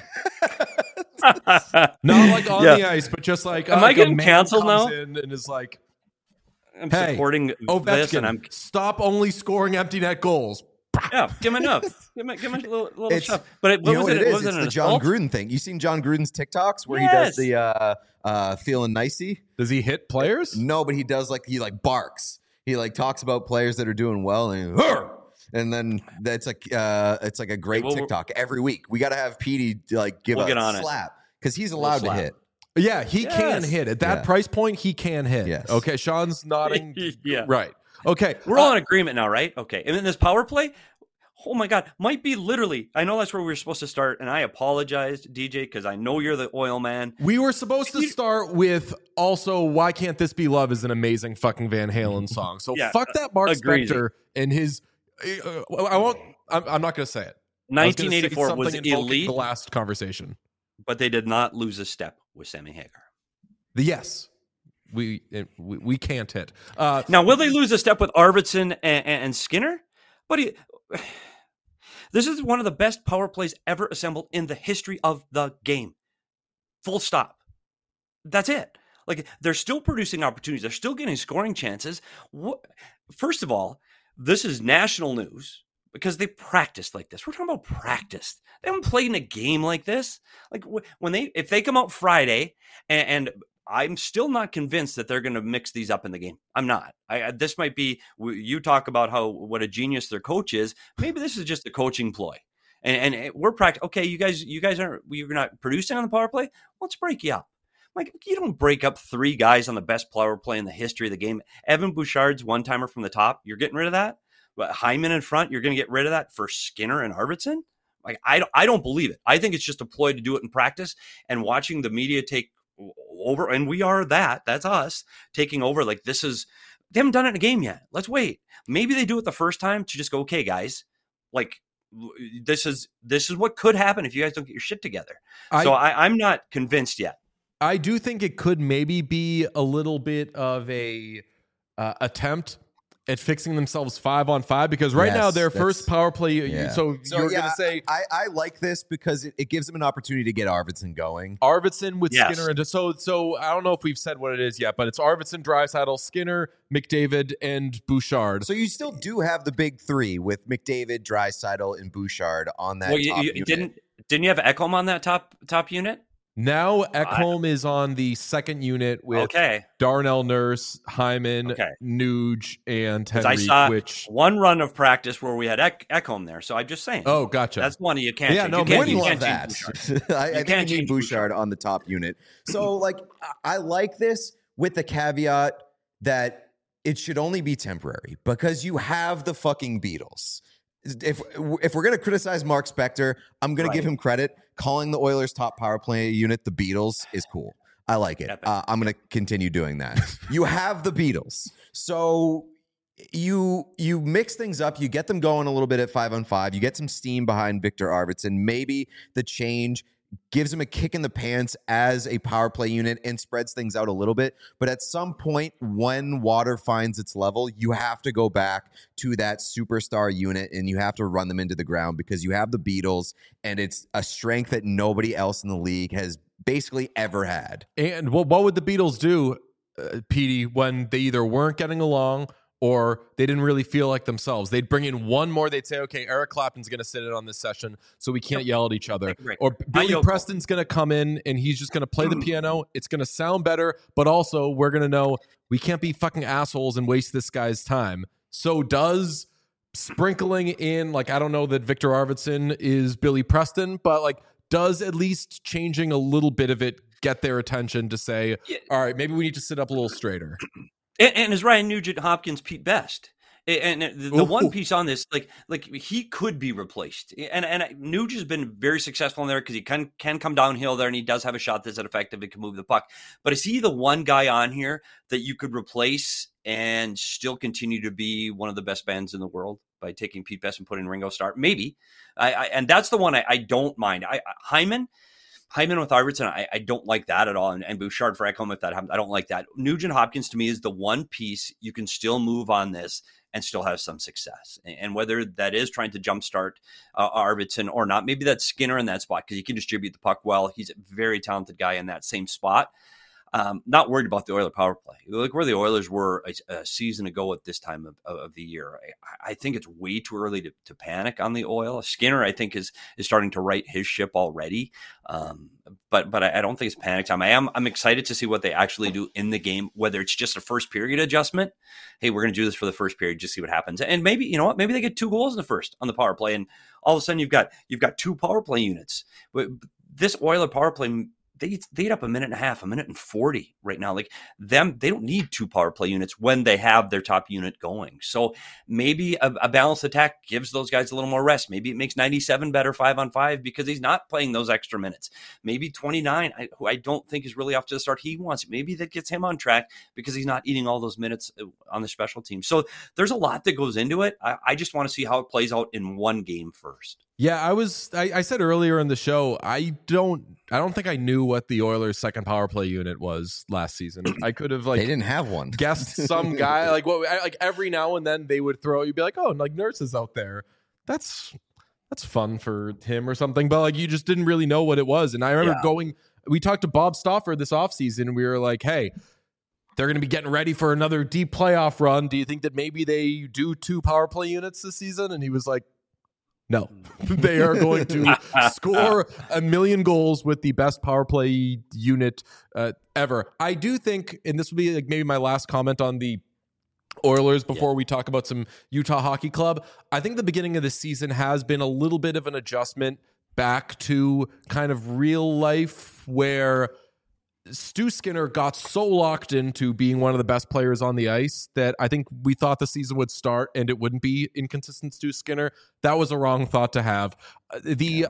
Not like on the ice, but just like, am I getting canceled now? And is like, I'm hey, supporting this, Ovechkin, and I'm stop only scoring empty net goals. give him enough. Give him a little It's, stuff. But you know what it is? Was It's it the John assault? Gruden thing. You seen John Gruden's TikToks where he does the feeling nicey? Does he hit players? No, but he does he barks. He talks about players that are doing well and then that's like it's like a great TikTok every week. We got to have Petey give a slap because he's allowed to hit. Yeah, he can hit at that price point. He can hit. Yes. Okay, Sean's nodding. Yeah. Right. Okay, We're all in agreement now, right? Okay. And then this power play, oh my God, might be literally, I know that's where we were supposed to start, and I apologized, DJ, because I know you're the oil man. we were supposed to start with also "Why Can't This Be Love" is an amazing fucking Van Halen song. So fuck that Mark agreed. Spector and his. I won't. I'm not going to say it. 1984 was invoking elite, the last conversation. but they did not lose a step with Sammy Hagar. Yes, we can't hit. Now, will they lose a step with Arvidsson and Skinner? But this is one of the best power plays ever assembled in the history of the game. Full stop. That's it. Like, they're still producing opportunities. They're still getting scoring chances. First of all, this is national news. because they practiced like this. We're talking about practice. They haven't played in a game like this. Like if they come out Friday and I'm still not convinced that they're going to mix these up in the game. I'm not. This might be, you talk about what a genius their coach is. Maybe this is just a coaching ploy. And we're practicing. Okay, you guys you're not producing on the power play. Let's break you up. Like, you don't break up 3 guys on the best power play in the history of the game. Evan Bouchard's one-timer from the top. You're getting rid of that. But Hyman in front, you're going to get rid of that for Skinner and Arvidsson. Like, I don't believe it. I think it's just a ploy to do it in practice, and watching the media take over, and we are that's us taking over. Like, they haven't done it in a game yet. Let's wait. Maybe they do it the first time to just go, okay, guys, like, this is what could happen if you guys don't get your shit together. I'm not convinced yet. I do think it could maybe be a little bit of a attempt at fixing themselves 5-on-5, because right now their first power play. Yeah. So you're going to say I like this because it gives them an opportunity to get Arvidsson going. Arvidsson with Skinner, and so I don't know if we've said what it is yet, but it's Arvidsson, Draisaitl, Skinner, McDavid, and Bouchard. So you still do have the big 3 with McDavid, Draisaitl, and Bouchard on that. Well, top unit. Didn't you have Ekholm on that top unit? Now Ekholm is on the second unit with Darnell Nurse, Hyman, Nuge, and Henry. I saw one run of practice where we had Ekholm there, so I'm just saying. Oh, gotcha. That's one you can't. Yeah, change. no, you can't that. I think you need Bouchard on the top unit. So, like, I like this with the caveat that it should only be temporary, because you have the fucking Beatles. If we're going to criticize Mark Spector, I'm going to give him credit. Calling the Oilers' top power play unit the Beatles is cool. I like it. I'm going to continue doing that. You have the Beatles. So you mix things up. You get them going a little bit at 5-on-5. You get some steam behind Victor Arvidsson. Maybe the change gives him a kick in the pants as a power play unit and spreads things out a little bit. But at some point, when water finds its level, you have to go back to that superstar unit and you have to run them into the ground, because you have the Beatles, and it's a strength that nobody else in the league has basically ever had. And what would the Beatles do, Petey, when they either weren't getting along or they didn't really feel like themselves? They'd bring in one more. They'd say, okay, Eric Clapton's going to sit in on this session so we can't yell at each other. Or Billy Preston's going to come in and he's just going to play the piano. It's going to sound better, but also we're going to know we can't be fucking assholes and waste this guy's time. So does sprinkling in, like, I don't know that Victor Arvidsson is Billy Preston, but like, does at least changing a little bit of it get their attention to say, all right, maybe we need to sit up a little straighter? And is Ryan Nugent-Hopkins Pete Best? And the one piece on this, like he could be replaced. And Nuge has been very successful in there because he can come downhill there, and he does have a shot that's effective and can move the puck. But is he the one guy on here that you could replace and still continue to be one of the best bands in the world by taking Pete Best and putting Ringo Starr? Maybe. And that's the one I don't mind. Hyman with Arvidsson, I don't like that at all. And Bouchard for Ekholm, if that happens, I don't like that. Nugent-Hopkins to me is the one piece you can still move on this and still have some success. And whether that is trying to jumpstart Arvidsson or not, maybe that's Skinner in that spot because he can distribute the puck well. He's a very talented guy in that same spot. Not worried about the Oilers power play. Look where the Oilers were a season ago at this time of the year. I think it's way too early to panic on the Oil. Skinner, I think, is starting to right his ship already. But I don't think it's panic time. I'm excited to see what they actually do in the game, whether it's just a first period adjustment. Hey, we're going to do this for the first period, just see what happens. And maybe, you know what, maybe they get 2 goals in the first on the power play, and all of a sudden you've got 2 power play units. But this Oiler power play, they eat up a minute and 40 right now. Like them, they don't need 2 power play units when they have their top unit going. So maybe a balanced attack gives those guys a little more rest. Maybe it makes 97 better 5-on-5 because he's not playing those extra minutes. Maybe 29, who I don't think is really off to the start he wants. Maybe that gets him on track because he's not eating all those minutes on the special team. So there's a lot that goes into it. I just want to see how it plays out in one game first. Yeah, I said earlier in the show, I don't think I knew what the Oilers' second power play unit was last season. I could have, like, they didn't have one. Guessed some guy, like every now and then they would throw, you'd be like, oh, like Nurse is out there. That's fun for him or something. But like you just didn't really know what it was. And I remember we talked to Bob Stauffer this offseason and we were like, hey, they're going to be getting ready for another deep playoff run. Do you think that maybe they do 2 power play units this season? And he was like, No, they are going to score a million goals with the best power play unit ever. I do think, and this will be like maybe my last comment on the Oilers before we talk about some Utah Hockey Club. I think the beginning of the season has been a little bit of an adjustment back to kind of real life where Stu Skinner got so locked into being one of the best players on the ice that I think we thought the season would start and it wouldn't be inconsistent Stu Skinner. That was a wrong thought to have. The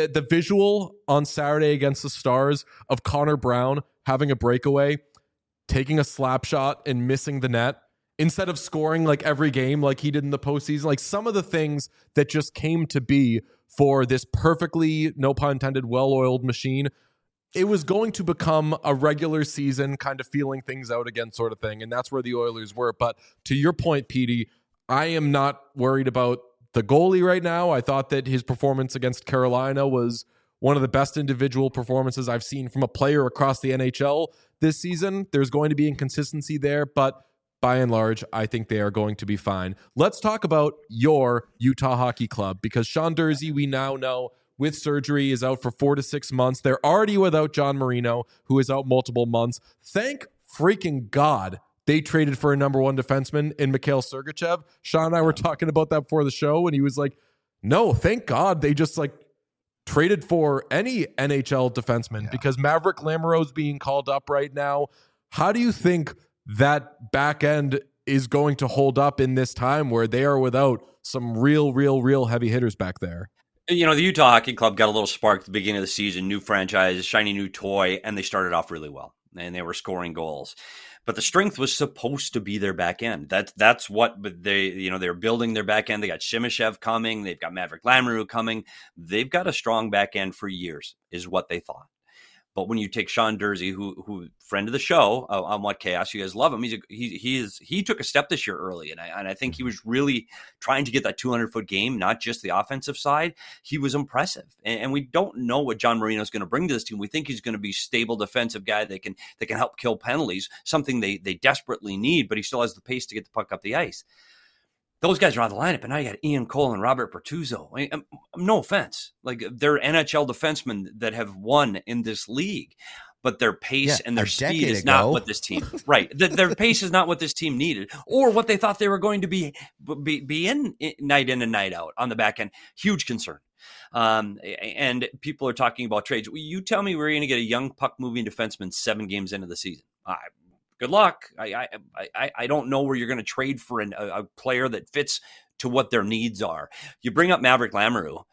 visual on Saturday against the Stars of Connor Brown having a breakaway, taking a slap shot and missing the net instead of scoring like every game like he did in the postseason, like some of the things that just came to be for this perfectly, no pun intended, well-oiled machine. It was going to become a regular season kind of feeling things out again sort of thing, and that's where the Oilers were. But to your point, Petey, I am not worried about the goalie right now. I thought that his performance against Carolina was one of the best individual performances I've seen from a player across the NHL this season. There's going to be inconsistency there, but by and large, I think they are going to be fine. Let's talk about your Utah Hockey Club, because Sean Durzi, we now know, with surgery, is out for 4 to 6 months. They're already without John Marino, who is out multiple months. Thank freaking God they traded for a number one defenseman in Mikhail Sergachev. Sean and I were talking about that before the show, and he was like, no, thank God they just like traded for any NHL defenseman because Maverick Lamoureux is being called up right now. How do you think that back end is going to hold up in this time where they are without some real heavy hitters back there? You know, the Utah Hockey Club got a little spark at the beginning of the season, new franchise, shiny new toy, and they started off really well, and they were scoring goals. But the strength was supposed to be their back end. That's what they're building their back end. They got Shimashev coming. They've got Maverick Lamoureux coming. They've got a strong back end for years, is what they thought. But when you take Sean Durzi, who friend of the show on What Chaos, you guys love him. He took a step this year early, and I think he was really trying to get that 200-foot game, not just the offensive side. He was impressive, and we don't know what John Marino is going to bring to this team. We think he's going to be a stable defensive guy that can help kill penalties, something they desperately need. But he still has the pace to get the puck up the ice. Those guys are on the lineup, and now you got Ian Cole and Robert Bertuzzo. I mean, no offense. Like, they're NHL defensemen that have won in this league, but their pace and their speed is not what this team, right. Their pace is not what this team needed or what they thought they were going to be in and night out on the back end. Huge concern. And people are talking about trades. You tell me we're going to get a young puck-moving defenseman 7 games into the season. Good luck. I don't know where you're going to trade for a player that fits to what their needs are. You bring up Maverick Lamoureux.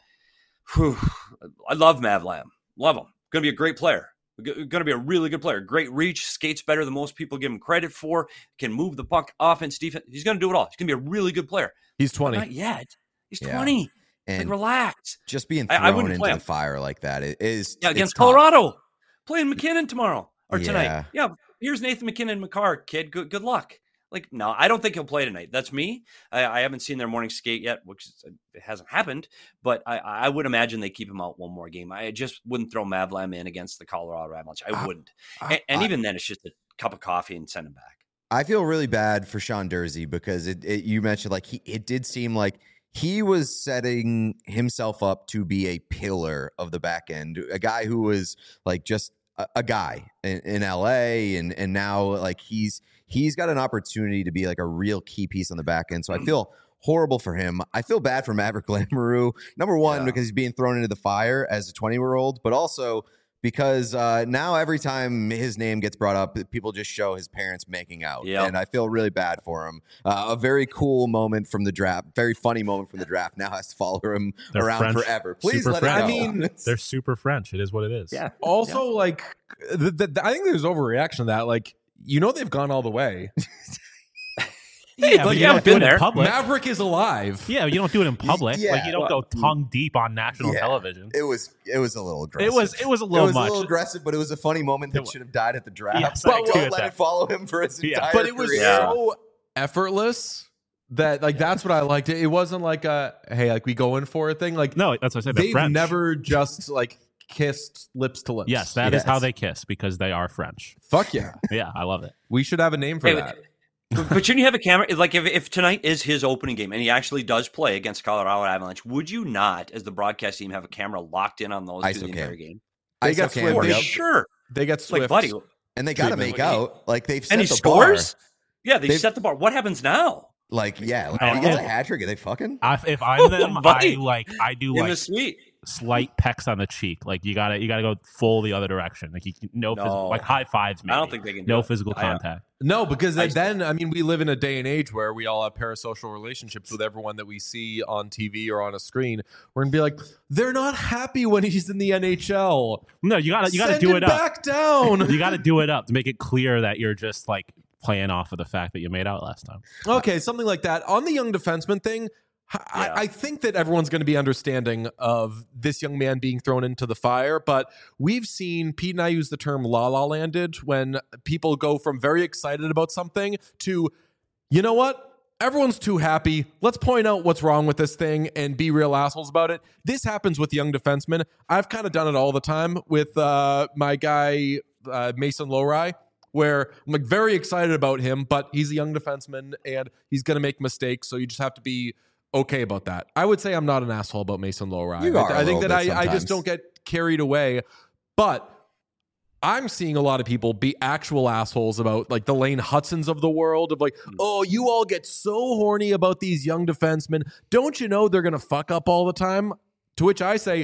I love Mav Lam. Love him. Going to be a great player. Going to be a really good player. Great reach. Skates better than most people give him credit for. Can move the puck. Offense, defense. He's going to do it all. He's going to be a really good player. He's 20. But not yet. He's 20. And relax. Just being thrown into the fire like that is against Colorado. Playing McKinnon tomorrow or tonight. Yeah. Here's Nathan McKinnon McCarr, kid. Good luck. Like, no, I don't think he'll play tonight. That's me. I haven't seen their morning skate yet, which it hasn't happened. But I would imagine they keep him out one more game. I just wouldn't throw Mavlam in against the Colorado Avalanche. I wouldn't. And even then, it's just a cup of coffee and send him back. I feel really bad for Sean Durzi because you mentioned like it did seem like he was setting himself up to be a pillar of the back end, a guy who was like just a guy in LA, and now like he's got an opportunity to be like a real key piece on the back end. So I feel horrible for him. I feel bad for Maverick Lamoureux, number one, because he's being thrown into the fire as a 20-year-old, but also because now every time his name gets brought up, people just show his parents making out. Yep. And I feel really bad for him. A very cool moment from the draft, very funny moment from the draft now has to follow him around French. Forever. Please super let French. it go. I mean, they're super French. It is what it is. Yeah. Also, like, I think there's overreaction to that. Like, they've gone all the way. Yeah, but you don't do it in public. Maverick is alive. Yeah, you don't do it in public. Yeah, like you don't go tongue deep on national television. It was a little aggressive. It was a little much. A little aggressive, but it was a funny moment that should have died at the draft. Yes, but don't let it follow him for his entire But it was career. so effortless that like that's what I liked. It wasn't like a hey, like we go in for a thing. Like no, that's what I said. They've French. never just like kissed lips to lips. Yes, that is how they kiss because they are French. Fuck yeah. Yeah, I love it. We should have a name for that. But shouldn't you have a camera? Like if tonight is his opening game and he actually does play against Colorado Avalanche, would you not, as the broadcast team, have a camera locked in on those through the entire game? They got Cam, For Swift. sure. They got Swift. Like, buddy. and they got to make out like they've set And he the scores? bar. Yeah, they set the bar. What happens now? Like, yeah, like, Oh, he gets a yeah. hat trick. Are they fucking? If I'm them, Buddy. I do In like the suite. slight pecks on the cheek. Like you gotta go full the other direction. Like like high fives. Maybe. I don't think they can do no it. physical contact. No, because then I mean, we live in a day and age where we all have parasocial relationships with everyone that we see on TV or on a screen. We're gonna be like, they're not happy when he's in the NHL. No, you gotta Send do him it up. back down. You gotta do it up to make it clear that you're just like playing off of the fact that you made out last time. Okay, something like that. On the young defenseman thing, I think that everyone's going to be understanding of this young man being thrown into the fire, but we've seen, Pete and I use the term la landed when people go from very excited about something to, you know what? Everyone's too happy. Let's point out what's wrong with this thing and be real assholes about it. This happens with young defensemen. I've kind of done it all the time with my guy, Mason Lohrei, where I'm like very excited about him, but he's a young defenseman and he's going to make mistakes. So you just have to be okay about that. I would say I'm not an asshole about Mason Lohrei. You are I think a that little bit I just sometimes. don't get carried away. But I'm seeing a lot of people be actual assholes about like the Lane Hudsons of the world of like, oh, you all get so horny about these young defensemen. Don't you know they're going to fuck up all the time? To which I say,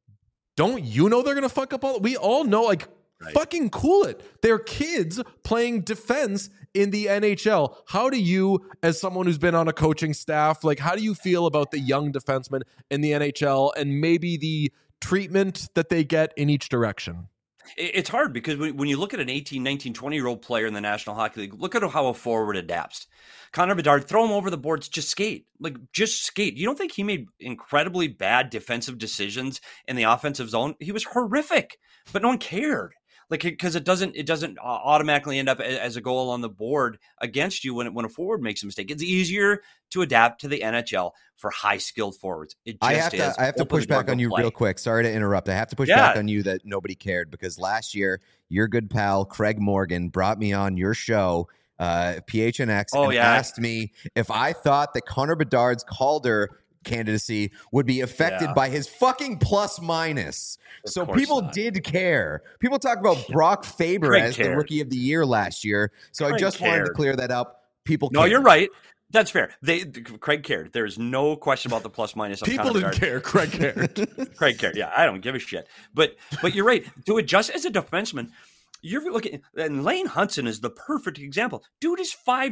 don't you know they're going to fuck up all? We all know, like, fucking cool it. They're kids playing defense in the NHL. How do you, as someone who's been on a coaching staff, like, how do you feel about the young defensemen in the NHL and maybe the treatment that they get in each direction? It's hard because when you look at an 18, 19, 20-year-old player in the National Hockey League, look at how a forward adapts. Connor Bedard, throw him over the boards, just skate. Like, just skate. You don't think he made incredibly bad defensive decisions in the offensive zone? He was horrific, but no one cared. Like, because it doesn't automatically end up as a goal on the board against you when a forward makes a mistake. It's easier to adapt to the NHL for high skilled forwards. It just is. I have to push back on you real quick. Sorry to interrupt. I have to push back on you that nobody cared because last year your good pal Craig Morgan brought me on your show, PHNX, and asked me if I thought that Connor Bedard's Calder candidacy would be affected by his fucking plus minus. So people did care. People talk about Brock Faber as the rookie of the year last year. So I just wanted to clear that up. People cared. No, you're right. That's fair. Craig cared. There's no question about the plus minus. People didn't care. Craig cared. Craig cared. Yeah, I don't give a shit. But you're right. To adjust as a defenseman, you're looking, and Lane Hudson is the perfect example. Dude is 5'9",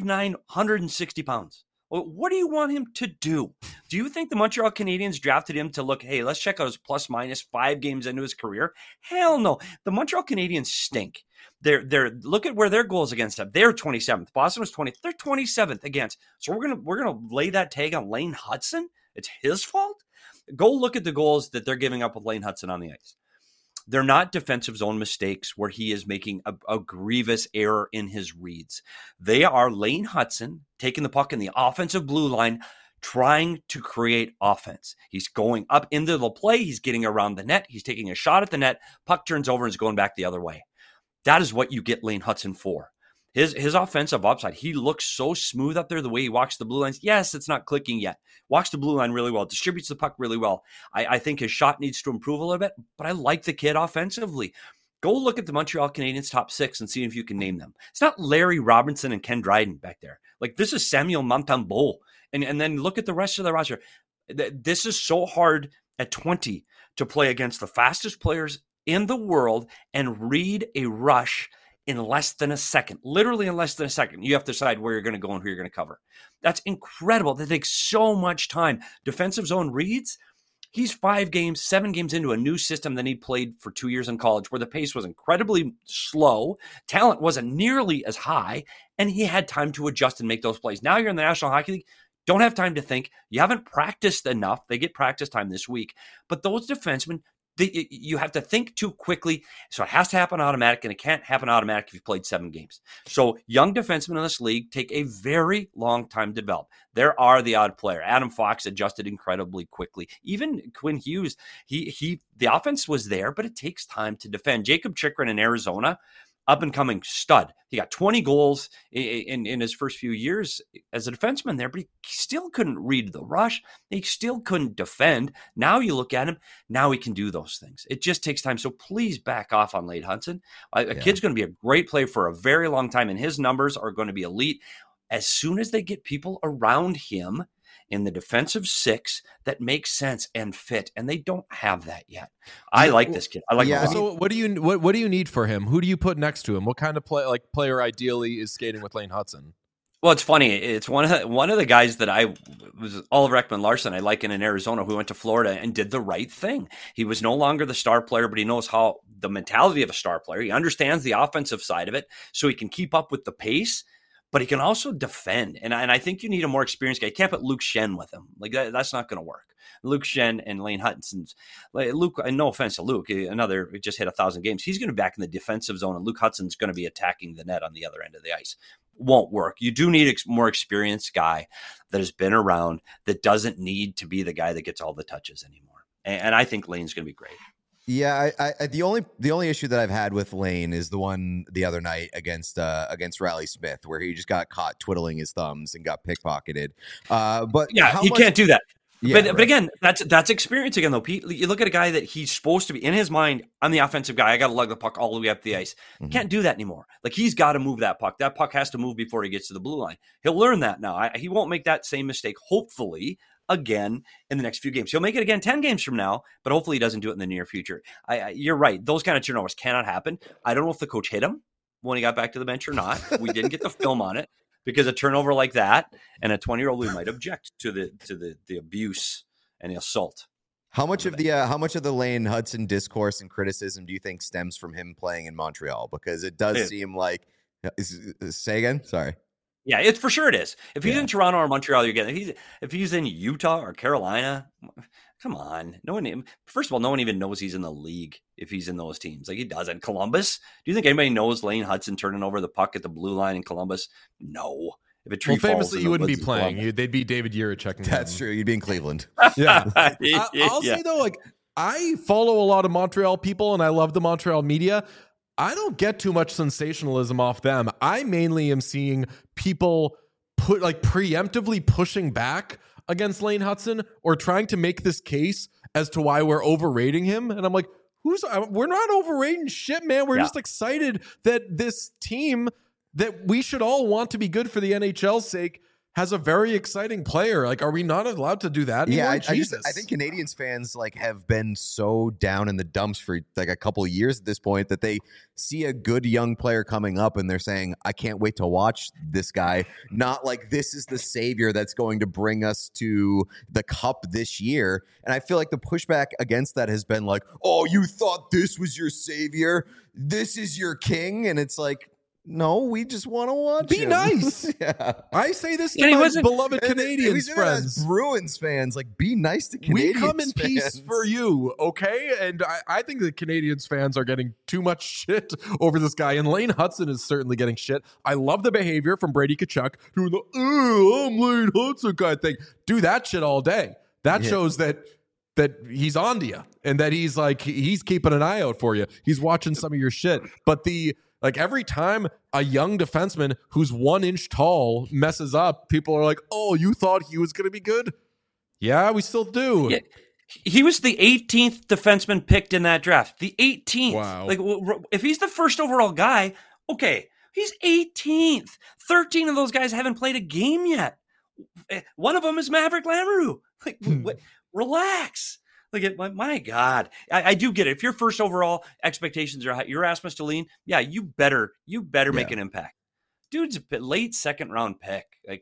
160 pounds. What do you want him to do? Do you think the Montreal Canadiens drafted him to look, hey, let's check out his plus minus 5 games into his career? Hell no. The Montreal Canadiens stink. They're look at where their goals against them. They're 27th. Boston was 20th. They're 27th against. So we're gonna lay that tag on Lane Hudson? It's his fault? Go look at the goals that they're giving up with Lane Hudson on the ice. They're not defensive zone mistakes where he is making a grievous error in his reads. They are Lane Hudson taking the puck in the offensive blue line, trying to create offense. He's going up into the play. He's getting around the net. He's taking a shot at the net. Puck turns over and is going back the other way. That is what you get Lane Hudson for. His offensive upside, he looks so smooth up there the way he walks the blue lines. Yes, it's not clicking yet. Walks the blue line really well, distributes the puck really well. I think his shot needs to improve a little bit, but I like the kid offensively. Go look at the Montreal Canadiens top 6 and see if you can name them. It's not Larry Robinson and Ken Dryden back there. Like, this is Samuel Montembeault. And then look at the rest of the roster. This is so hard at 20 to play against the fastest players in the world and read a rush in less than a second, literally in less than a second. You have to decide where you're going to go and who you're going to cover. That's incredible. That takes so much time. Defensive zone reads, he's 7 games into a new system than he played for 2 years in college where the pace was incredibly slow. Talent wasn't nearly as high, and he had time to adjust and make those plays. Now you're in the National Hockey League. Don't have time to think. You haven't practiced enough. They get practice time this week. But those defensemen, you have to think too quickly, so it has to happen automatic, and it can't happen automatic if you've played 7 games. So young defensemen in this league take a very long time to develop. There are the odd player. Adam Fox adjusted incredibly quickly. Even Quinn Hughes, the offense was there, but it takes time to defend. Jacob Chychrun in Arizona up and coming stud. He got 20 goals in his first few years as a defenseman there, but he still couldn't read the rush. He still couldn't defend. Now you look at him, now he can do those things. It just takes time. So please back off on Lane Hutson. A kid's going to be a great player for a very long time, and his numbers are going to be elite. As soon as they get people around him in the defensive six that makes sense and fit, and they don't have that yet. I like this kid. I like him. So what do you need for him? Who do you put next to him? What kind of player ideally is skating with Lane Hutson? Well, it's funny. It's one of the guys that I was Oliver Ekman-Larsson. I like in Arizona, who went to Florida and did the right thing. He was no longer the star player, but he knows how the mentality of a star player. He understands the offensive side of it, so he can keep up with the pace. But he can also defend. And I think you need a more experienced guy. You can't put Luke Shen with him. That's not going to work. Luke Shen and Lane Hutson's. Luke, no offense to Luke, just hit 1,000 games. He's going to be back in the defensive zone, and Luke Hudson's going to be attacking the net on the other end of the ice. Won't work. You do need a more experienced guy that has been around, that doesn't need to be the guy that gets all the touches anymore. And I think Lane's going to be great. Yeah, I the only issue that I've had with Lane is the one the other night against Riley Smith, where he just got caught twiddling his thumbs and got pickpocketed. But yeah, he can't do that. Yeah, but again, that's experience again, though, Pete. You look at a guy that he's supposed to be, in his mind, I'm the offensive guy. I got to lug the puck all the way up the ice. Can't do that anymore. He's got to move that puck. That puck has to move before he gets to the blue line. He'll learn that now. He won't make that same mistake, hopefully, again in the next few games. He'll make it again 10 games from now, but hopefully he doesn't do it in the near future. You're right. Those kind of turnovers cannot happen. I don't know if the coach hit him when he got back to the bench or not. We didn't get the film on it, because a turnover like that, and a 20-year-old, we might object to the abuse and the assault. How much of the Lane Hutson discourse and criticism do you think stems from him playing in Montreal? Because it does seem like say again? Sorry. Yeah, it's for sure it is. If he's in Toronto or Montreal, you're getting. If he's in Utah or Carolina, come on. First of all, no one even knows he's in the league if he's in those teams. He doesn't. Columbus? Do you think anybody knows Lane Hutson turning over the puck at the blue line in Columbus? No. If a tree falls, famously, you wouldn't be playing. They'd be David Jiricek. That's true. You'd be in Cleveland. Yeah. I'll say though, I follow a lot of Montreal people, and I love the Montreal media. I don't get too much sensationalism off them. I mainly am seeing people preemptively pushing back against Lane Hutson or trying to make this case as to why we're overrating him. And I'm like, we're not overrating shit, man. We're just excited that this team that we should all want to be good for the NHL's sake has a very exciting player. Are we not allowed to do that anymore? Yeah, I think Canadiens fans have been so down in the dumps for a couple of years at this point that they see a good young player coming up and they're saying, I can't wait to watch this guy. Not this is the savior that's going to bring us to the cup this year. And I feel like the pushback against that has been oh, you thought this was your savior? This is your king? And it's no, we just want to watch Be him. Nice. Yeah. I say this to my beloved Canadiens friends. Bruins fans, be nice to Canadiens We come in fans. peace for you, okay? And I think the Canadiens fans are getting too much shit over this guy, and Lane Hutson is certainly getting shit. I love the behavior from Brady Tkachuk, doing the, I'm Lane Hutson kind of thing. Do that shit all day. That shows that he's on to you, and that he's keeping an eye out for you. He's watching some of your shit. But every time a young defenseman who's 1 inch tall messes up, people are like, oh, you thought he was going to be good? Yeah, we still do. Yeah. He was the 18th defenseman picked in that draft. The 18th. Wow. If he's the first overall guy, okay, he's 18th. 13 of those guys haven't played a game yet. One of them is Maverick Lamoureux. Relax. My God, I do get it. If your first overall expectations are high, you're Rasmus Dahlin, yeah, you better make an impact. Dude's a late 2nd round pick.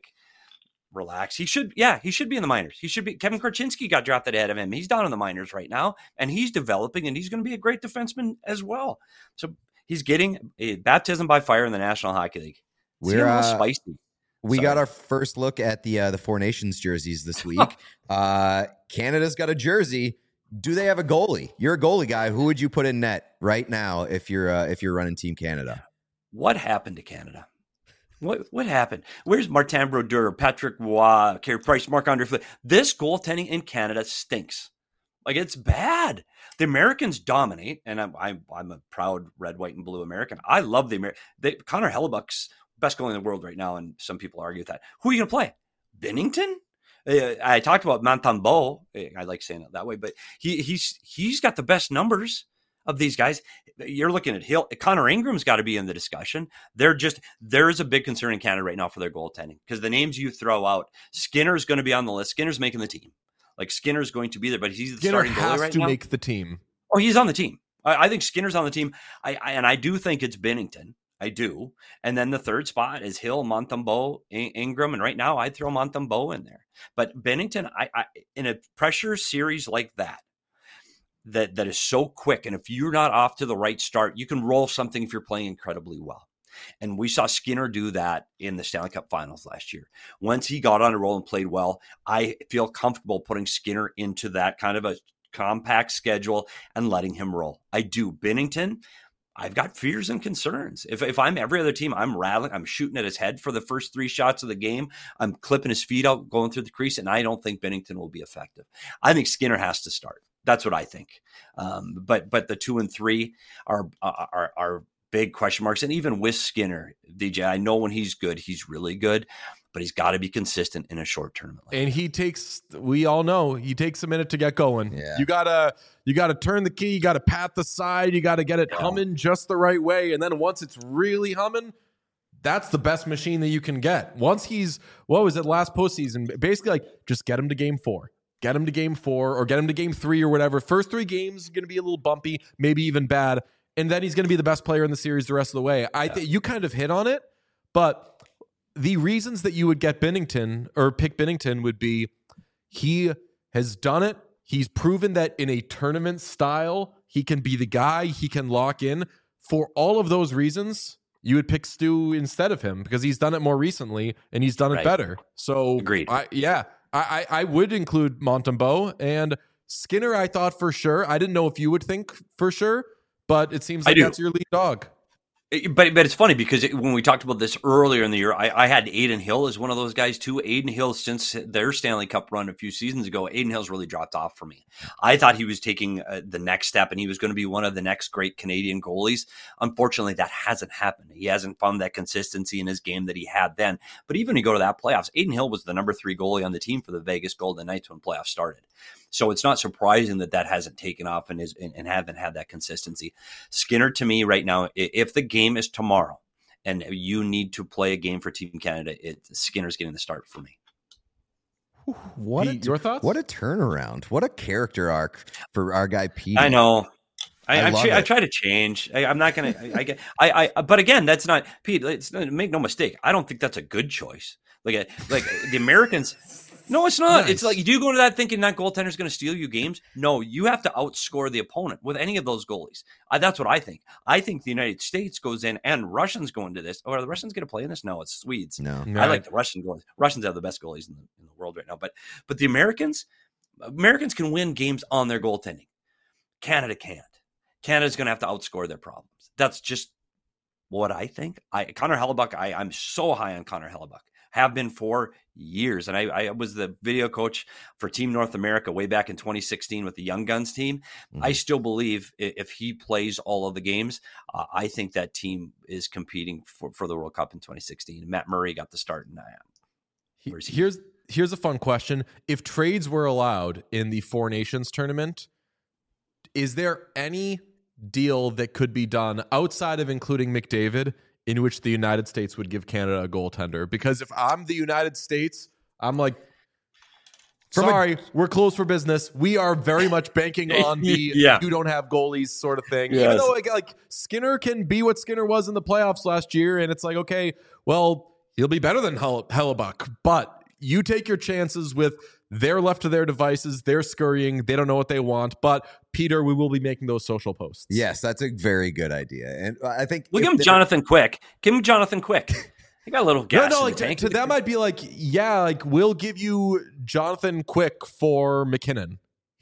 Relax. He should be in the minors. He should be. Kevin Korchinski got drafted ahead of him. He's down in the minors right now, and he's developing, and he's going to be a great defenseman as well. So he's getting a baptism by fire in the National Hockey League. We're a little spicy. We got our first look at the Four Nations jerseys this week. Canada's got a jersey. Do they have a goalie? You're a goalie guy. Who would you put in net right now if you're running Team Canada? What happened to Canada? What happened? Where's Martin Brodeur, Patrick Roy, Carey Price, Marc-Andre Fleury? This goaltending in Canada stinks. Like, it's bad. The Americans dominate, and I'm a proud red, white, and blue American. I love the American. Connor Hellebuck's best goalie in the world right now, and some people argue with that. Who are you going to play? Binnington? I talked about Montembeault. I like saying it that way, but he's got the best numbers of these guys. You're looking at Hill. Connor Ingram's got to be in the discussion. There is a big concern in Canada right now for their goaltending, because the names you throw out, Skinner's going to be on the list. Skinner's making the team. Like, Skinner's going to be there, but he's the starting goalie right now. Skinner has to make the team. Oh, he's on the team. I think Skinner's on the team. I do think it's Binnington. I do. And then the third spot is Hill, Montembeault, Ingram. And right now I'd throw Montembeault in there. But Binnington, I in a pressure series like that is so quick, and if you're not off to the right start, you can roll something if you're playing incredibly well. And we saw Skinner do that in the Stanley Cup Finals last year. Once he got on a roll and played well, I feel comfortable putting Skinner into that kind of a compact schedule and letting him roll. I do. Binnington, I've got fears and concerns. If I'm every other team, I'm rattling, I'm shooting at his head for the first 3 shots of the game. I'm clipping his feet out, going through the crease, and I don't think Binnington will be effective. I think Skinner has to start. That's what I think. But the 2 and 3 are big question marks. And even with Skinner, DJ, I know when he's good, he's really good, but he's got to be consistent in a short tournament. We all know he takes a minute to get going. Yeah. You gotta turn the key, you gotta pat the side, you gotta get it humming just the right way. And then once it's really humming, that's the best machine that you can get. Once what was it, last postseason? Basically, like, just get him to game 4. Get him to game 4 or get him to game 3 or whatever. First 3 games going to be a little bumpy, maybe even bad. And then he's going to be the best player in the series the rest of the way. I think you kind of hit on it, but the reasons that you would get Binnington or pick Binnington would be he has done it. He's proven that in a tournament style, he can be the guy, he can lock in. For all of those reasons, you would pick Stu instead of him because he's done it more recently and he's done it better. So agreed. I would include Montembeault and Skinner. I thought for sure. I didn't know if you would think for sure, but it seems like that's your lead dog. But it's funny because when we talked about this earlier in the year, I had Adin Hill as one of those guys too. Adin Hill, since their Stanley Cup run a few seasons ago, Adin Hill's really dropped off for me. I thought he was taking the next step and he was going to be one of the next great Canadian goalies. Unfortunately, that hasn't happened. He hasn't found that consistency in his game that he had then. But even when you go to that playoffs, Adin Hill was the number 3 goalie on the team for the Vegas Golden Knights when playoffs started. So it's not surprising that hasn't taken off and haven't had that consistency. Skinner, to me right now, if the game is tomorrow and you need to play a game for Team Canada, Skinner's getting the start for me. Your thoughts? What a turnaround. What a character arc for our guy Pete. I know. I try to change. I'm not going to. But again, that's not Pete. Make no mistake. I don't think that's a good choice. Like the Americans. No, it's not. Nice. It's like, do you go into that thinking that goaltender's going to steal you games? No, you have to outscore the opponent with any of those goalies. That's what I think. I think the United States goes in and Russians go into this. Or are the Russians going to play in this? No, it's Swedes. No. I like the Russian goalies. Russians have the best goalies in the world right now. But the Americans can win games on their goaltending. Canada can't. Canada's going to have to outscore their problems. That's just what I think. Connor Hellebuck, I'm so high on Connor Hellebuck. Have been for years. And I was the video coach for Team North America way back in 2016 with the Young Guns team. Mm-hmm. I still believe if he plays all of the games, I think that team is competing for the World Cup in 2016. Matt Murray got the start. Here's a fun question. If trades were allowed in the Four Nations tournament, is there any deal that could be done outside of including McDavid in which the United States would give Canada a goaltender? Because if I'm the United States, I'm like, sorry, we're closed for business. We are very much banking on the you don't have goalies sort of thing. Yes. Even though like Skinner can be what Skinner was in the playoffs last year, and it's like, okay, well, he'll be better than Hellebuck, but you take your chances with they're left to their devices. They're scurrying. They don't know what they want. But Peter, we will be making those social posts. Yes, that's a very good idea. And I think give him Jonathan Quick. Give him Jonathan Quick. He got a little gas in the tank. To that might be like, we'll give you Jonathan Quick for McKinnon.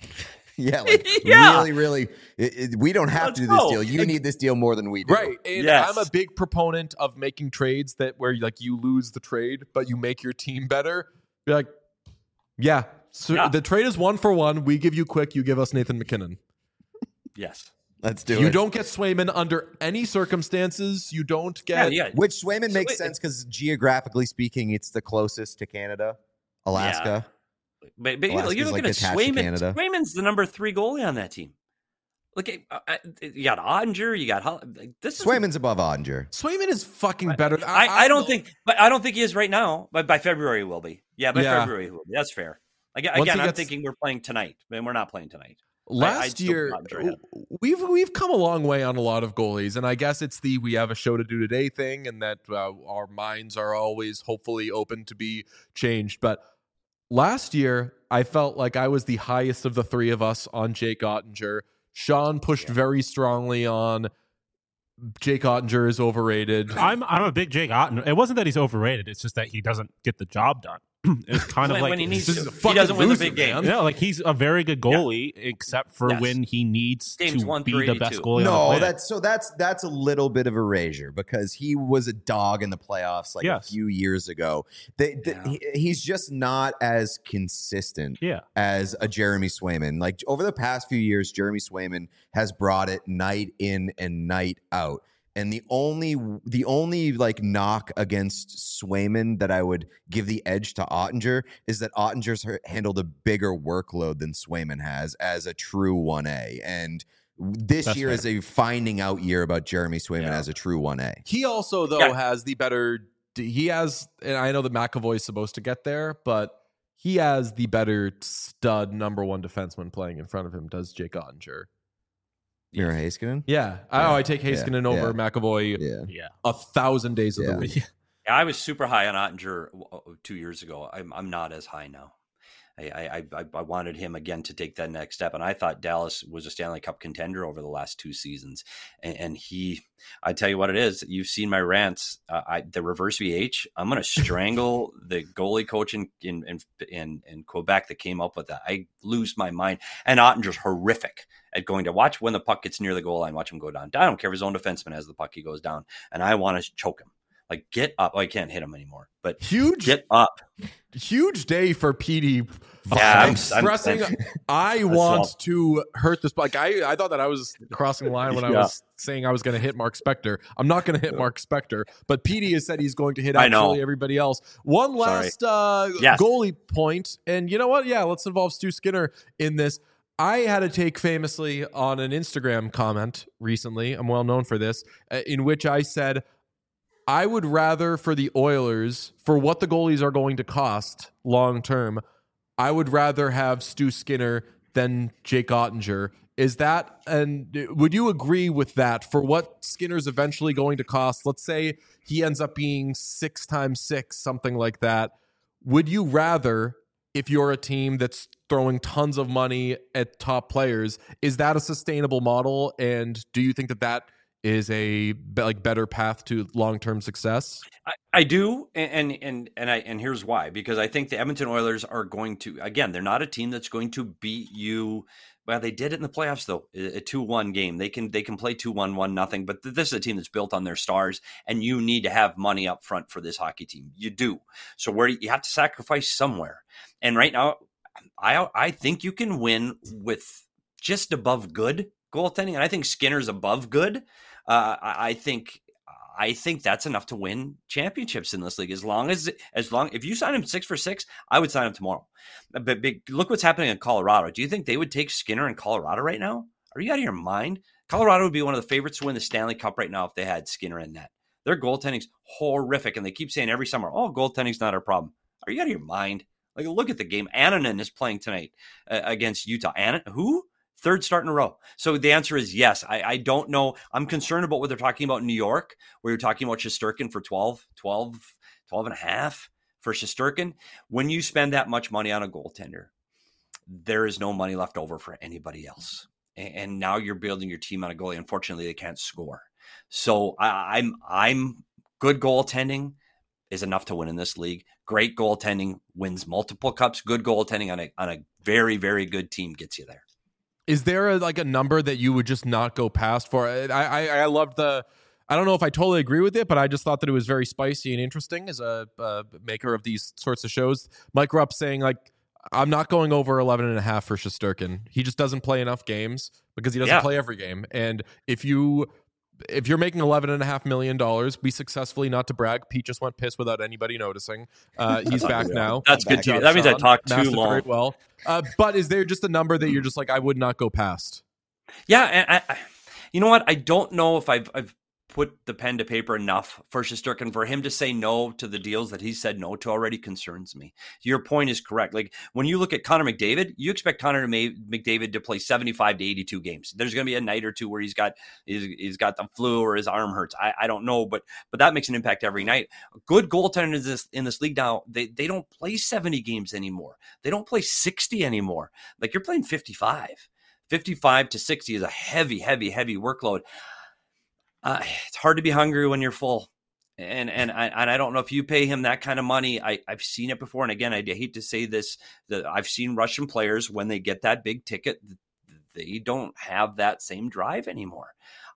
Really, we don't have to do this deal. You need this deal more than we do. Right. And I'm a big proponent of making trades where like you lose the trade, but you make your team better. You're like, So Yeah. the trade is 1-for-1. We give you Quick. You give us Nathan McKinnon. Yes. Let's do You it. don't get Swayman under any circumstances. You don't get. Yeah. Which Swayman So makes it- sense because geographically speaking, it's the closest to Canada, Alaska. But you're Alaska's, looking like, at attached to Swayman. Canada. Swayman's the number 3 goalie on that team. Look, you got Ottinger. You got this. Is, Swayman's above Ottinger. Swayman is fucking better. I don't think, but I don't think he is right now. But by February he will be. Yeah, by Yeah. February he will be. That's fair. Once Again, he I'm gets- thinking we're playing tonight, and we're not playing tonight. Last still year, not ahead. we've come a long way on a lot of goalies, and I guess it's the we have a show to do today thing, and that our minds are always hopefully open to be changed. But last year, I felt like I was the highest of the three of us on Jake Ottinger. Sean pushed very strongly on Jake Ottinger is overrated. I'm a big Jake Otten. It wasn't that he's overrated. It's just that he doesn't get the job done. It's kind of When like he needs this to. is a He fucking doesn't win the loser, big game. man. yeah, like he's a very good goalie, except for Yes. when he needs Games to 1 be through the best 82. goalie. on the No, planet. that's a little bit of erasure because he was a dog in the playoffs like Yes. a few years ago. He's just not as consistent Yeah. as a Jeremy Swayman. Like over the past few years, Jeremy Swayman has brought it night in and night out. And the only like knock against Swayman that I would give the edge to Ottinger is that Ottinger's handled a bigger workload than Swayman has as a true 1A. And this That's year fair. is a finding out year about Jeremy Swayman Yeah. as a true 1A. He also, though, Yeah. has the better. He has, and I know that McAvoy is supposed to get there, but he has the better stud number one defenseman playing in front of him. Does Jake Ottinger? Mira Heiskanen? Yeah. I take Heiskanen over McAvoy Yeah. Yeah. 1,000 days of the Yeah. week. Yeah, I was super high on Ottinger 2 years ago. I'm not as high now. I wanted him again to take that next step, and I thought Dallas was a Stanley Cup contender over the last 2 seasons. And I tell you what it is. You've seen my rants. The reverse VH. I'm going to strangle the goalie coach in Quebec that came up with that. I lose my mind. And Ottinger's horrific at going to watch when the puck gets near the goal line. Watch him go down. I don't care if his own defenseman has the puck. He goes down, and I want to choke him. Like, get up. I can't hit him anymore, but get up. Huge day for PD. Yeah, expressing, I want to hurt this. Like I thought that I was crossing the line when I was saying I was going to hit Mark Spector. I'm not going to hit Mark Spector, but PD has said he's going to hit I know. absolutely everybody else. One last Yes. goalie point, and you know what? Yeah, let's involve Stu Skinner in this. I had a take famously on an Instagram comment recently. I'm well known for this, in which I said, I would rather for the Oilers, for what the goalies are going to cost long term, I would rather have Stu Skinner than Jake Ottinger. Is that, and would you agree with that for what Skinner's eventually going to cost? Let's say he ends up being 6 times 6, something like that. Would you rather, if you're a team that's throwing tons of money at top players, is that a sustainable model? And do you think that that is a better path to long-term success? I do, and here's why. Because I think the Edmonton Oilers are going to, again, they're not a team that's going to beat you. Well, they did it in the playoffs though, a 2-1 game. They can play 2-1, 1-0, but this is a team that's built on their stars, and you need to have money up front for this hockey team. You do. So where you have to sacrifice somewhere. And right now, I think you can win with just above good goaltending, and I think Skinner's above good. I think that's enough to win championships in this league. As long if you sign him 6 for 6, I would sign him tomorrow. But look what's happening in Colorado. Do you think they would take Skinner in Colorado right now? Are you out of your mind? Colorado would be one of the favorites to win the Stanley Cup right now if they had Skinner in net. Their goaltending's horrific, and they keep saying every summer, "Oh, goaltending's not our problem." Are you out of your mind? Like, look at the game. Annunen is playing tonight against Utah. Who? 3rd start in a row. So the answer is yes. I don't know. I'm concerned about what they're talking about in New York, where you're talking about Shesterkin for 12 and a half for Shesterkin. When you spend that much money on a goaltender, there is no money left over for anybody else. And now you're building your team on a goalie. Unfortunately, they can't score. So I'm good goaltending is enough to win in this league. Great goaltending wins multiple cups. Good goaltending on a very, very good team gets you there. Is there a number that you would just not go past for? I loved I don't know if I totally agree with it, but I just thought that it was very spicy and interesting as a maker of these sorts of shows. Mike Rupp saying I'm not going over 11.5 for Shesterkin. He just doesn't play enough games because he doesn't play every game. And if you're making $11.5 million, we successfully, not to brag, Pete just went piss without anybody noticing. He's back now. That's good too. That means I talked too long. Very well. But is there just a number that you're just like, I would not go past? Yeah, and you know what? I don't know if I've put the pen to paper enough for Shesterkin. For him to say no to the deals that he said no to already concerns me. Your point is correct. Like when you look at Connor McDavid, you expect Connor McDavid to play 75 to 82 games. There's going to be a night or two where he's got the flu or his arm hurts. I don't know, but that makes an impact every night. Good goaltenders in this league now, they don't play 70 games anymore. They don't play 60 anymore. Like you're playing 55. 55 to 60 is a heavy workload. It's hard to be hungry when you're full. And I don't know if you pay him that kind of money. I've seen it before. And again, I hate to say this, that I've seen Russian players, when they get that big ticket, they don't have that same drive anymore.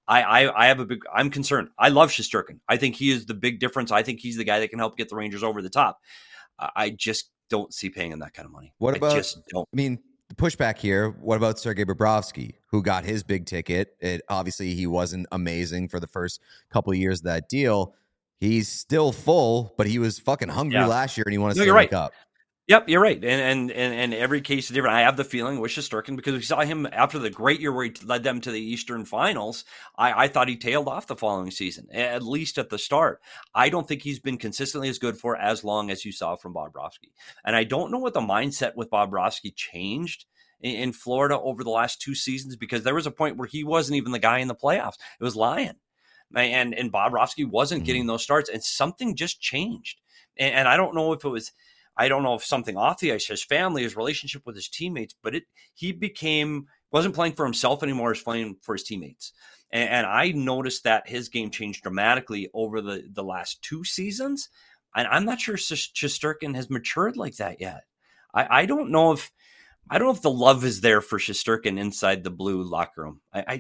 I'm concerned. I love Shesterkin. I think he is the big difference. I think he's the guy that can help get the Rangers over the top. I just don't see paying him that kind of money. What about, I just don't. I mean, the pushback here, what about Sergei Bobrovsky, who got his big ticket? Obviously, he wasn't amazing for the first couple of years of that deal. He's still full, but he was fucking hungry last year, and he wanted to wake up. Yep, you're right. And every case is different. I have the feeling with Shesterkin because we saw him after the great year where he led them to the Eastern Finals. I thought he tailed off the following season, at least at the start. I don't think he's been consistently as good for as long as you saw from Bobrovsky. And I don't know what the mindset with Bobrovsky changed in Florida over the last 2 seasons, because there was a point where he wasn't even the guy in the playoffs. It was Lyon. And Bobrovsky wasn't getting those starts, and something just changed. And I don't know if it was... I don't know if something off the ice, his family, his relationship with his teammates, but he wasn't playing for himself anymore, he was playing for his teammates. And I noticed that his game changed dramatically over the last 2 seasons. And I'm not sure Shesterkin has matured like that yet. I don't know if the love is there for Shesterkin inside the Blue locker room. I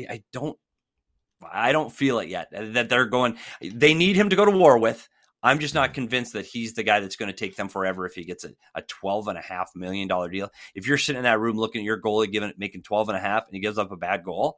don't feel it yet, that they need him to go to war with. I'm just not convinced that he's the guy that's going to take them forever if he gets a $12.5 million deal. If you're sitting in that room looking at your goalie making 12.5 and he gives up a bad goal,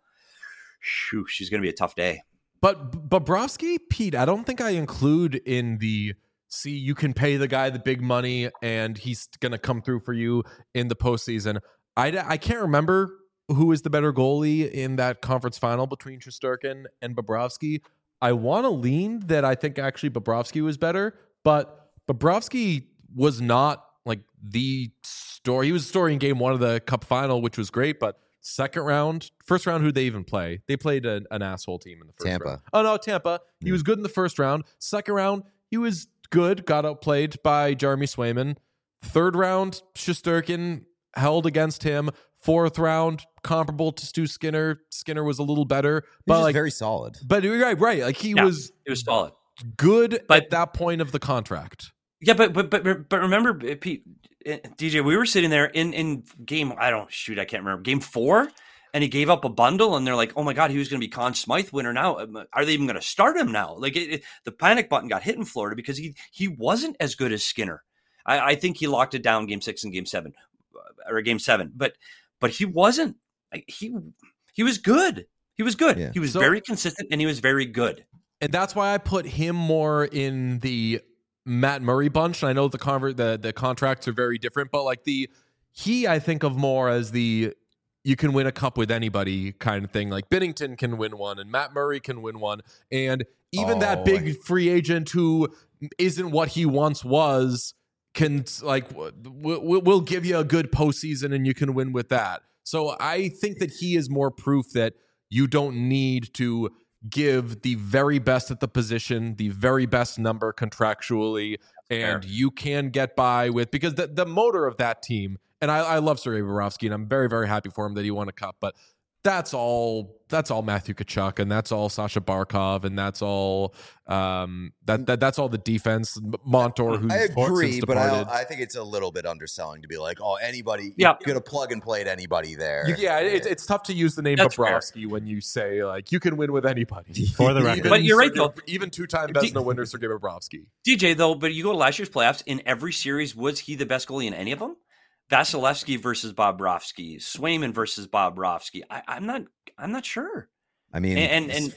she's going to be a tough day. But Bobrovsky, Pete, I don't think I include in the you can pay the guy the big money and he's going to come through for you in the postseason. I can't remember who is the better goalie in that conference final between Shesterkin and Bobrovsky. I want to lean that I think actually Bobrovsky was better, but Bobrovsky was not like the story. He was a story in game 1 of the Cup final, which was great, but first round, who'd they even play? They played an asshole team in the first round. Oh, no, Tampa. He was good in the first round. Second round, he was good, got outplayed by Jeremy Swayman. Third round, Shesterkin held against him. Fourth round, comparable to Stu Skinner. Skinner was a little better, but like very solid. But right. Like he was solid, good at that point of the contract. Yeah, but remember, Pete, DJ, we were sitting there in game. I can't remember, game 4, and he gave up a bundle, and they're like, "Oh my God, he was going to be Conn Smythe winner now. Are they even going to start him now?" Like the panic button got hit in Florida because he wasn't as good as Skinner. I think he locked it down game 6 and game 7, or game 7, but he wasn't. He was good. He was good. Yeah. He was very consistent, and he was very good. And that's why I put him more in the Matt Murray bunch. And I know the contracts are very different, but like I think of more as you can win a cup with anybody kind of thing. Like Binnington can win one, and Matt Murray can win one, and even that big free agent who isn't what he once was can we'll give you a good postseason and you can win with that. So I think that he is more proof that you don't need to give the very best at the position, the very best number contractually, and you can get by with, because the motor of that team, and I love Sergei Bobrovsky, and I'm very, very happy for him that he won a cup, but that's all Matthew Tkachuk, and that's all Sasha Barkov, and that's all that's all the defense. Montour, who's I agree, but departed. I think it's a little bit underselling to be like, oh, anybody, yeah, you could have plug and played anybody there. It's tough to use the name Bobrovsky when you say like you can win with anybody. For the record, but you're right though. Even 2-time Vezina winner Sergei Bobrovsky. DJ though, but you go to last year's playoffs. In every series, was he the best goalie in any of them? Vasilevsky versus Bobrovsky, Swayman versus Bobrovsky. I'm not sure. I mean, And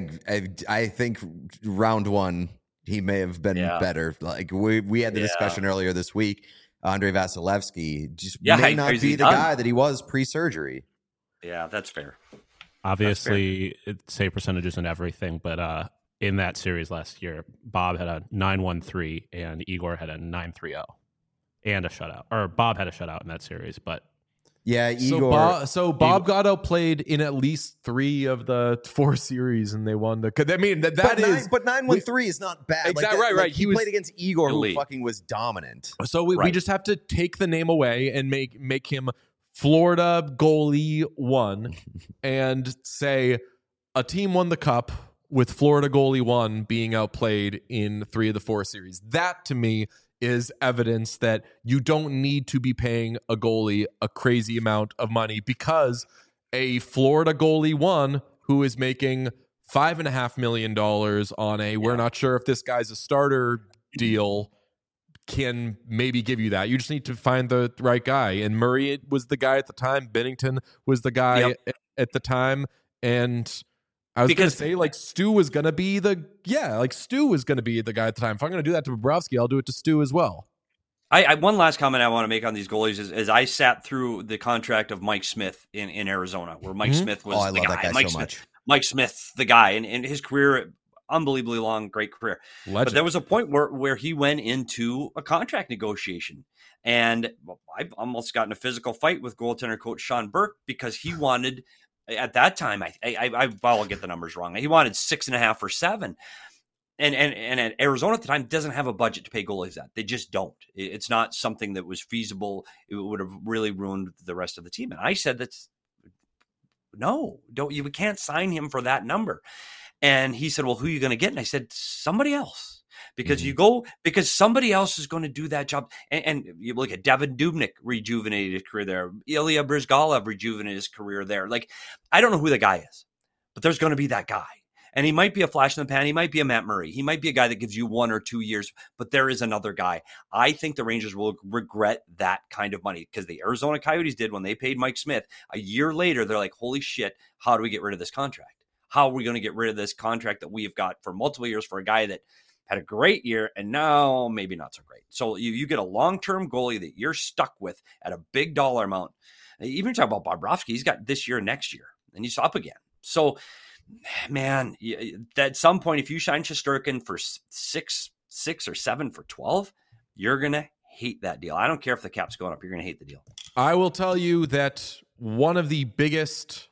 I think round one he may have been better. Like we had the discussion earlier this week. Andrei Vasilevsky just may not be the guy that he was pre-surgery. Yeah, that's fair. Obviously, save percentages and everything, but in that series last year, Bob had a 9-1-3 and Igor had a 9-3-0 and a shutout. Or Bob had a shutout in that series, but yeah, Igor. So Bob got outplayed in at least 3 of the 4 series, and they won the. I mean, but 9-1-3 is not bad. Exactly right. He played against Igor, who fucking was dominant. So we just have to take the name away and make him Florida goalie 1, and say a team won the cup with Florida goalie 1 being outplayed in 3 of the 4 series. That to me is evidence that you don't need to be paying a goalie a crazy amount of money, because a Florida goalie 1 who is making $5.5 million on we're not sure if this guy's a starter deal can maybe give you that. You just need to find the right guy. And Murray was the guy at the time. Bennington was the guy at the time. And I was going to say, like, Stu was going to be Stu was going to be the guy at the time. If I'm going to do that to Bobrovsky, I'll do it to Stu as well. I one last comment I want to make on these goalies is I sat through the contract of Mike Smith in Arizona, where Mike Smith was the guy. Mike Smith, the guy, and his career, unbelievably long, great career. Legend. But there was a point where he went into a contract negotiation, and I almost got in a physical fight with goaltender coach Sean Burke because he wanted, at that time, I'll get the numbers wrong. He wanted 6.5 or 7. And at Arizona at the time doesn't have a budget to pay goalies that. They just don't. It's not something that was feasible. It would have really ruined the rest of the team. And I said, we can't sign him for that number. And he said, well, who are you going to get? And I said, somebody else. Because because somebody else is going to do that job. And you look at Devin Dubnyk rejuvenated his career there. Ilya Bryzgalov rejuvenated his career there. Like, I don't know who the guy is, but there's going to be that guy. And he might be a flash in the pan. He might be a Matt Murray. He might be a guy that gives you 1 or 2 years, but there is another guy. I think the Rangers will regret that kind of money, because the Arizona Coyotes did when they paid Mike Smith. A year later, they're like, holy shit, how do we get rid of this contract? How are we going to get rid of this contract that we've got for multiple years for a guy that had a great year and now maybe not so great? So you get a long-term goalie that you're stuck with at a big dollar amount. Even talk about Bobrovsky, he's got this year, next year, and he's up again. So, man, at some point, if you sign Shesterkin for 6 or 7 for 12, you're going to hate that deal. I don't care if the cap's going up. You're going to hate the deal. I will tell you that one of the biggest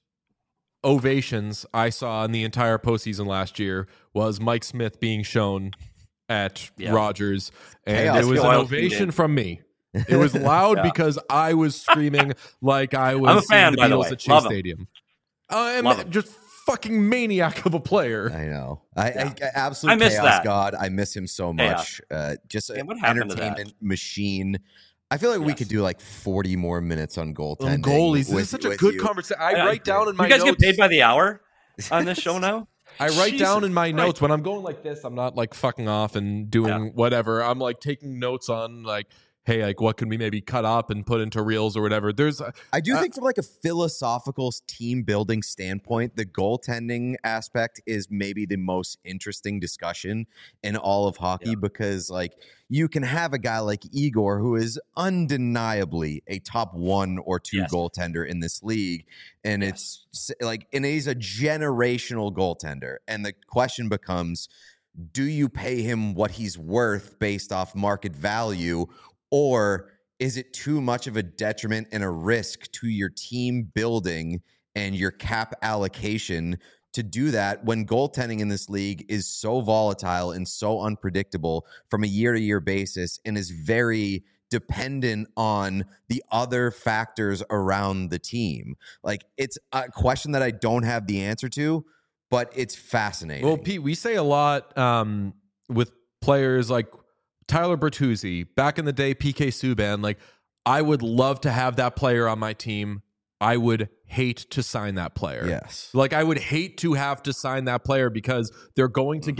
ovations I saw in the entire postseason last year was Mike Smith being shown at Rogers. And it was an ovation from me. It was loud because I was screaming like I was I'm a fan, seeing the by the Beatles way. at Chase Stadium. I'm just fucking maniac of a player. I know. I absolute miss chaos that. God. I miss him so much. Just an entertainment machine. I feel like we could do like 40 more minutes on goaltending. Goalies. This is such a good conversation. I write down in my notes. You guys get paid by the hour on this show now? I write down in my notes when I'm going like this. I'm not like fucking off and doing whatever. I'm like taking notes on like, hey, like what can we maybe cut up and put into reels or whatever. I do think from like a philosophical team building standpoint, the goaltending aspect is maybe the most interesting discussion in all of hockey, because like you can have a guy like Igor, who is undeniably a top 1 or 2 goaltender in this league. And it's like, and he's a generational goaltender. And the question becomes, do you pay him what he's worth based off market value? Or is it too much of a detriment and a risk to your team building and your cap allocation to do that when goaltending in this league is so volatile and so unpredictable from a year-to-year basis and is very dependent on the other factors around the team? Like, it's a question that I don't have the answer to, but it's fascinating. Well, Pete, we say a lot with players like Tyler Bertuzzi, back in the day, PK Subban, like, I would love to have that player on my team. I would hate to sign that player. Yes. Like, I would hate to have to sign that player because they're going to get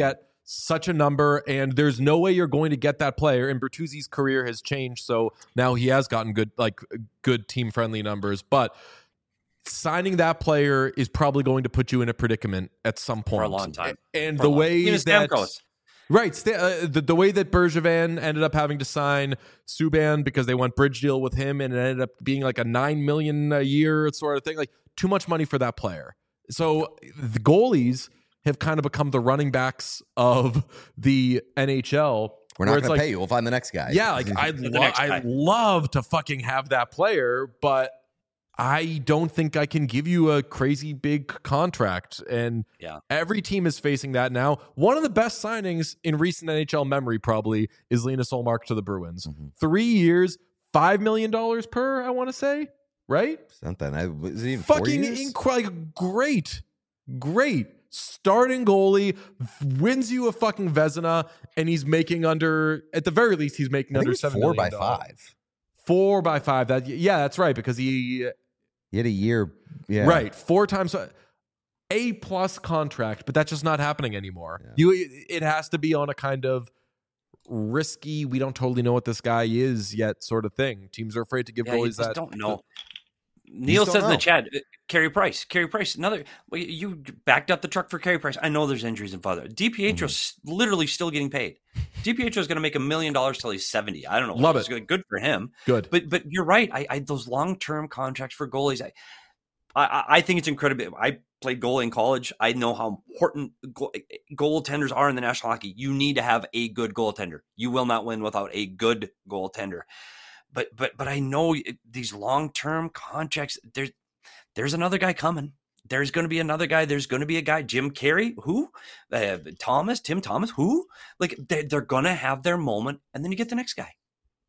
such a number, and there's no way you're going to get that player. And Bertuzzi's career has changed, so now he has gotten good team friendly numbers. But signing that player is probably going to put you in a predicament at some point For a long time. And the way that Stamkos. right, the way that Bergevin ended up having to sign Subban because they went bridge deal with him, and it ended up being like a $9 million a year sort of thing, like too much money for that player. So the goalies have kind of become the running backs of the NHL. We're not going to pay you. We'll find the next guy. Yeah, like I'd love to fucking have that player, but I don't think I can give you a crazy big contract. And every team is facing that now. One of the best signings in recent NHL memory probably is Linus Ullmark to the Bruins. 3 years, $5 million per, I want to say, right? Something. Is it even fucking incredible. Great. Starting goalie, wins you a fucking Vezina, and he's making at the very least, he's making under $7 million. 4x5. 4x5. That's right, because he had a year. Yeah. Right. 4 times A+ contract, but that's just not happening anymore. Yeah. It has to be on a kind of risky, we don't totally know what this guy is yet sort of thing. Teams are afraid to give goalies that. Don't know. Neil says in the chat, Carey Price, another. You backed up the truck for Carey Price. I know there's injuries involved. DiPietro's literally still getting paid. DiPietro is going to make $1 million till he's 70. I don't know. Love it. Good for him. Good. But you're right. I those long-term contracts for goalies, I think it's incredible. I played goalie in college. I know how important goaltenders are in the National Hockey. You need to have a good goaltender. You will not win without a good goaltender. But I know these long-term contracts, there's another guy coming. There's going to be another guy. There's going to be a guy, Jim Carey, who? Tim Thomas, who? Like, they're going to have their moment, and then you get the next guy.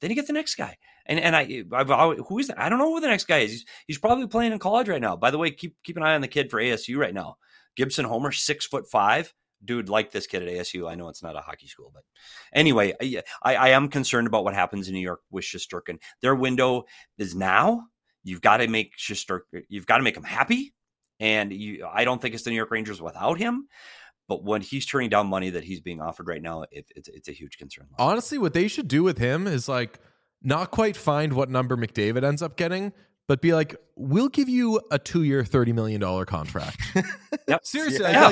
And who is that? I don't know who the next guy is. He's probably playing in college right now. By the way, keep an eye on the kid for ASU right now. Gibson Homer, 6'5". Dude, like this kid at ASU. I know it's not a hockey school, but anyway, I am concerned about what happens in New York with Shesterkin. Their window is now. You've got to make Shesterkin. You've got to make him happy, and I don't think it's the New York Rangers without him. But when he's turning down money that he's being offered right now, it's a huge concern. Honestly, what they should do with him is like not quite find what number McDavid ends up getting, but be like, we'll give you a 2-year, $30 million contract. Yep. Seriously, Yeah.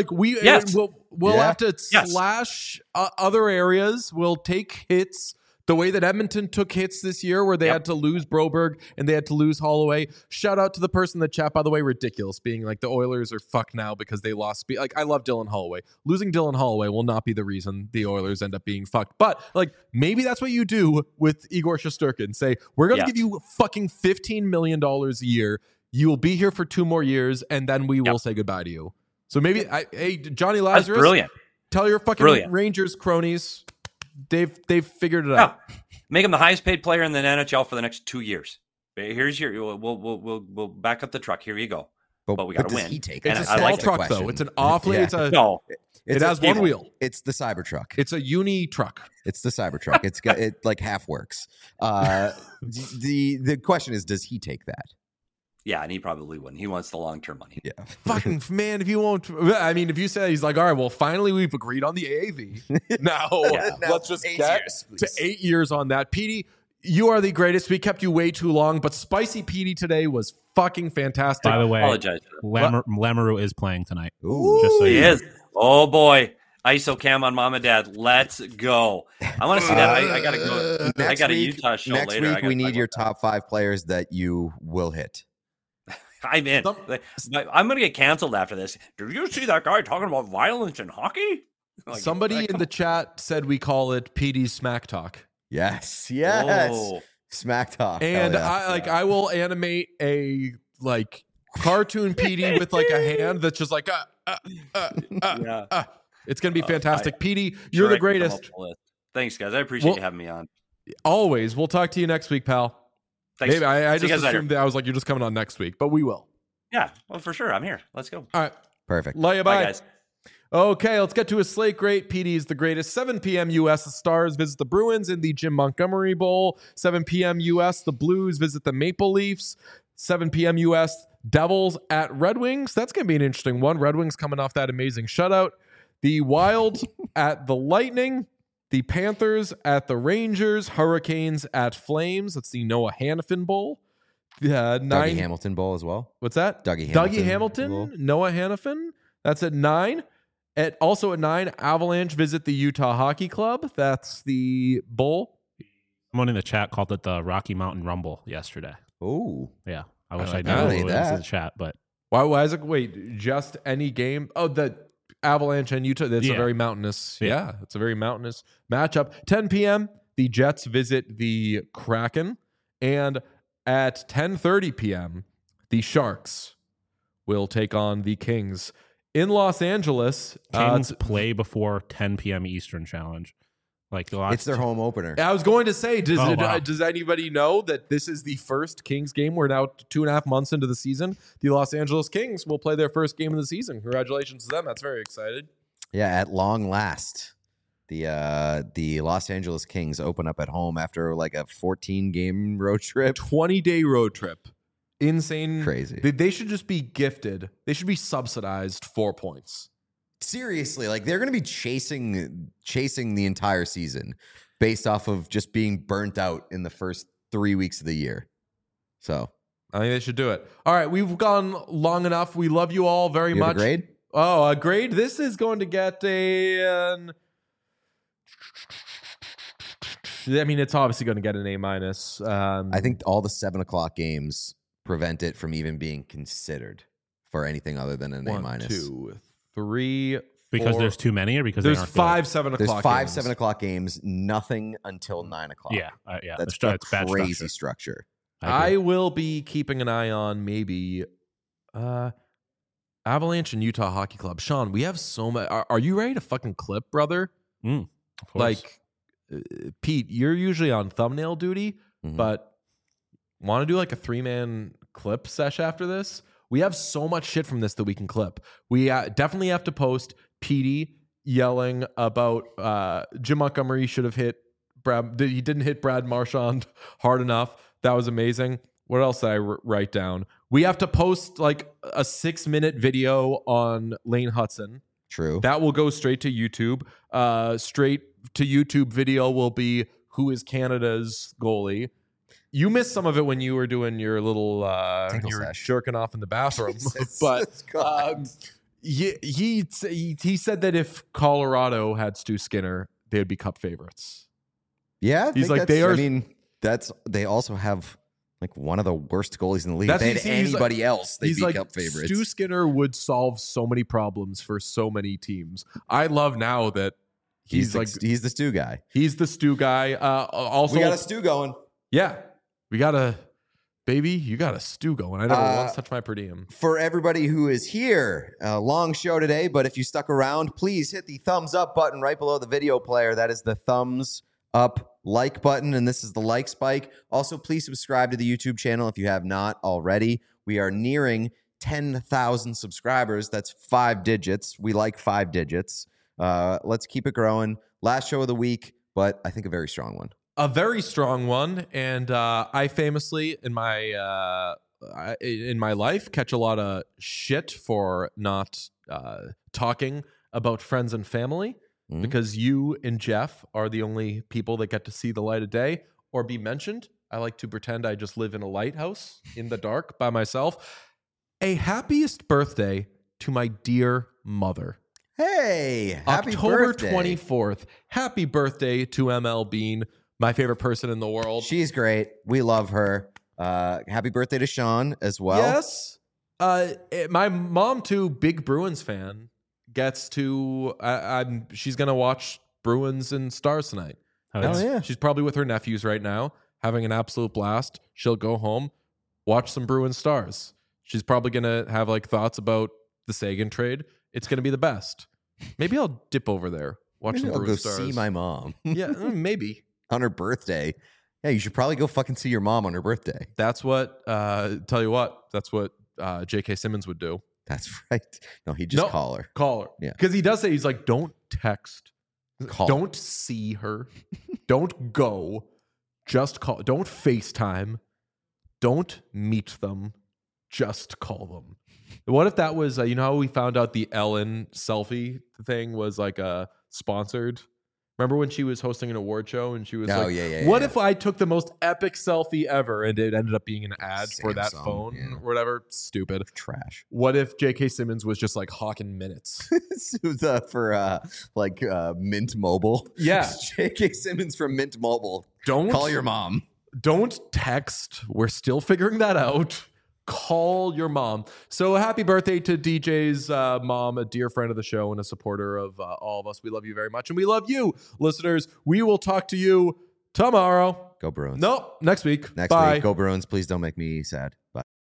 we'll have to slash other areas. We'll take hits the way that Edmonton took hits this year, where they had to lose Broberg and they had to lose Holloway. Shout out to the person in the chat, by the way, ridiculous, being like the Oilers are fucked now because they lost. Like, I love Dylan Holloway. Losing Dylan Holloway will not be the reason the Oilers end up being fucked. But like, maybe that's what you do with Igor Shesterkin. Say, we're going to give you fucking $15 million a year. You will be here for 2 more years, and then we will say goodbye to you. So maybe, hey, Johnny Lazarus, that's brilliant. Tell your fucking Rangers cronies. They've figured it out. Make him the highest paid player in the NHL for the next 2 years. Here's we'll back up the truck. Here you go. But we got to win. It's a small truck though. It's an awfully. It has one wheel. It's the Cybertruck. It's a uni truck. It's the Cybertruck. It like half works. The question is, does he take that? Yeah, and he probably wouldn't. He wants the long-term money. Yeah. Fucking man, if you won't. I mean, if you say he's like, all right, well, finally we've agreed on the AAV. Now, let's just get to 8 years on that. Petey, you are the greatest. We kept you way too long, but Spicy Petey today was fucking fantastic. By the way, apologize. Lamoureux is playing tonight. Ooh. Just so he you know. is. Oh, boy. ISO cam on Mom and Dad. Let's go. I want to see that. I got to go. I got a Utah show next later. Next week, we need your top 5 players that you will hit. I'm in. I'm going to get canceled after this. Did you see that guy talking about violence in hockey? Like, somebody in the chat said we call it PD's Smack Talk. Yes. Oh. Smack Talk. And I will animate a like cartoon PD with like a hand that's just like It's gonna be fantastic. PD, you're the greatest. Thanks, guys. I appreciate you having me on. Always. We'll talk to you next week, pal. Thanks. Maybe I just assumed that I was like, you're just coming on next week, but we will. Yeah, well, for sure. I'm here. Let's go. All right. Perfect. Love you. Bye, guys. Okay, let's get to a slate great. PD is the greatest. 7 p.m. U.S. The Stars visit the Bruins in the Jim Montgomery Bowl. 7 p.m. U.S. The Blues visit the Maple Leafs. 7 p.m. U.S. Devils at Red Wings. That's going to be an interesting one. Red Wings coming off that amazing shutout. The Wild at the Lightning, the Panthers at the Rangers, Hurricanes at Flames. That's the Noah Hannafin Bowl. Dougie Hamilton Bowl as well. What's that? Dougie Hamilton, Bowl. Noah Hannafin. That's at 9. Also at 9, Avalanche visit the Utah Hockey Club. That's the bowl. Someone in the chat called it the Rocky Mountain Rumble yesterday. Oh, Yeah, I wish I like knew that. who was That. in the chat, but Why is it? Wait, just any game? Oh, the Avalanche and Utah. That's a Yeah. very mountainous. Yeah. Yeah, it's a very mountainous matchup. 10 p.m. The Jets visit the Kraken, and at 10:30 p.m. the Sharks will take on the Kings in Los Angeles. Kings play before 10 p.m. Eastern challenge. Like the last it's their home opener. I was going to say, wow. does anybody know that this is the first Kings game? We're now 2.5 months into the season. The Los Angeles Kings will play their first game of the season. Congratulations to them. That's very excited. Yeah, at long last, the Los Angeles Kings open up at home after like a 14-game road trip. 20-day road trip. Insane. Crazy. They should just be gifted. They should be subsidized 4 points. Seriously, like they're going to be chasing the entire season based off of just being burnt out in the first 3 weeks of the year. So I think they should do it. All right, we've gone long enough. We love you all very you have much. a grade? Oh, a grade. This is going to get it's obviously going to get an A minus. I think all the 7 o'clock games prevent it from even being considered for anything other than an A 1, minus. 2, 3, because 4. there's too many, or because There's they aren't 5 7 There's o'clock. 5 games. 7 o'clock games, nothing until 9 o'clock. Good. Yeah. That's It's bad crazy structure. structure. I agree. I will be keeping an eye on maybe Avalanche and Utah Hockey Club. Sean, we have so much. Are you ready to fucking clip, brother? Of course. Like, Pete, you're usually on thumbnail duty, Mhm. but want to do like a 3-man clip sesh after this? We have so much shit from this that we can clip. We definitely have to post Petey yelling about Jim Montgomery should have hit Brad. He didn't hit Brad Marchand hard enough. That was amazing. What else did I write down? We have to post like a 6-minute video on Lane Hudson. True. That will go straight to YouTube. Straight to YouTube video will be who is Canada's goalie. You missed some of it when you were doing your little Tinkle you were sesh. jerking off in the bathroom. Jesus But God. he said that if Colorado had Stu Skinner, they would be Cup favorites. Yeah, I He's think like, that's- they are- I mean, they also have like one of the worst goalies in the league. If That's- they had he's like- anybody else, they'd He's be like, Cup favorites. Stu Skinner would solve so many problems for so many teams. I love now that he's like he's the Stu guy. he's the Stu guy. Also, We got a Stu going. yeah, we got a baby. You got a Stu going. I never Uh, once touched my per diem. For everybody who is here, a long show today, but if you stuck around, please hit the thumbs up button right below the video player. That is the thumbs up like button, and this is the like spike. Also, please subscribe to the YouTube channel if you have not already. We are nearing 10,000 subscribers. That's 5 digits. We like 5 digits. Let's keep it growing. Last show of the week, but I think a very strong one. A very strong one, and I famously in my life catch a lot of shit for not talking about friends and family Mhm. because you and Jeff are the only people that get to see the light of day or be mentioned. I like to pretend I just live in a lighthouse in the dark by myself. A happiest birthday to my dear mother. Hey, happy October birthday. 24th. Happy birthday to ML Bean, my favorite person in the world. She's great. We love her. Happy birthday to Sean as well. Yes. My mom too, big Bruins fan, gets to. She's gonna watch Bruins and Stars tonight. Hell yeah. She's probably with her nephews right now, having an absolute blast. She'll go home, watch some Bruins Stars. She's probably gonna have like thoughts about the Sagan trade. It's gonna be the best. Maybe I'll dip over there, watch Maybe some I'll go Bruins Stars. see my mom Yeah, maybe. on her birthday. Yeah, you should probably go fucking see your mom on her birthday. That's what. Tell you what. That's what J.K. Simmons would do. That's right. No, he'd just No. call her. Call her. Yeah. Because he does say, he's like, don't text. Call. Don't see her. Don't go. Just call. Don't FaceTime. Don't meet them. just call them. What if that was, you know how we found out the Ellen selfie thing was like sponsored? Remember when she was hosting an award show and she was what if I took the most epic selfie ever and it ended up being an ad for that Samsung, phone or whatever? Stupid. Trash. What if J.K. Simmons was just like hawking minutes? For Mint Mobile. Yeah. J.K. Simmons from Mint Mobile. Call your mom. Don't text. We're still figuring that out. Call your mom. So happy birthday to DJ's mom, a dear friend of the show and a supporter of all of us. We love you very much. And we love you, listeners. We will talk to you tomorrow. Go Bruins. Nope. Next week. Next Bye. week. Go Bruins. Please don't make me sad. Bye.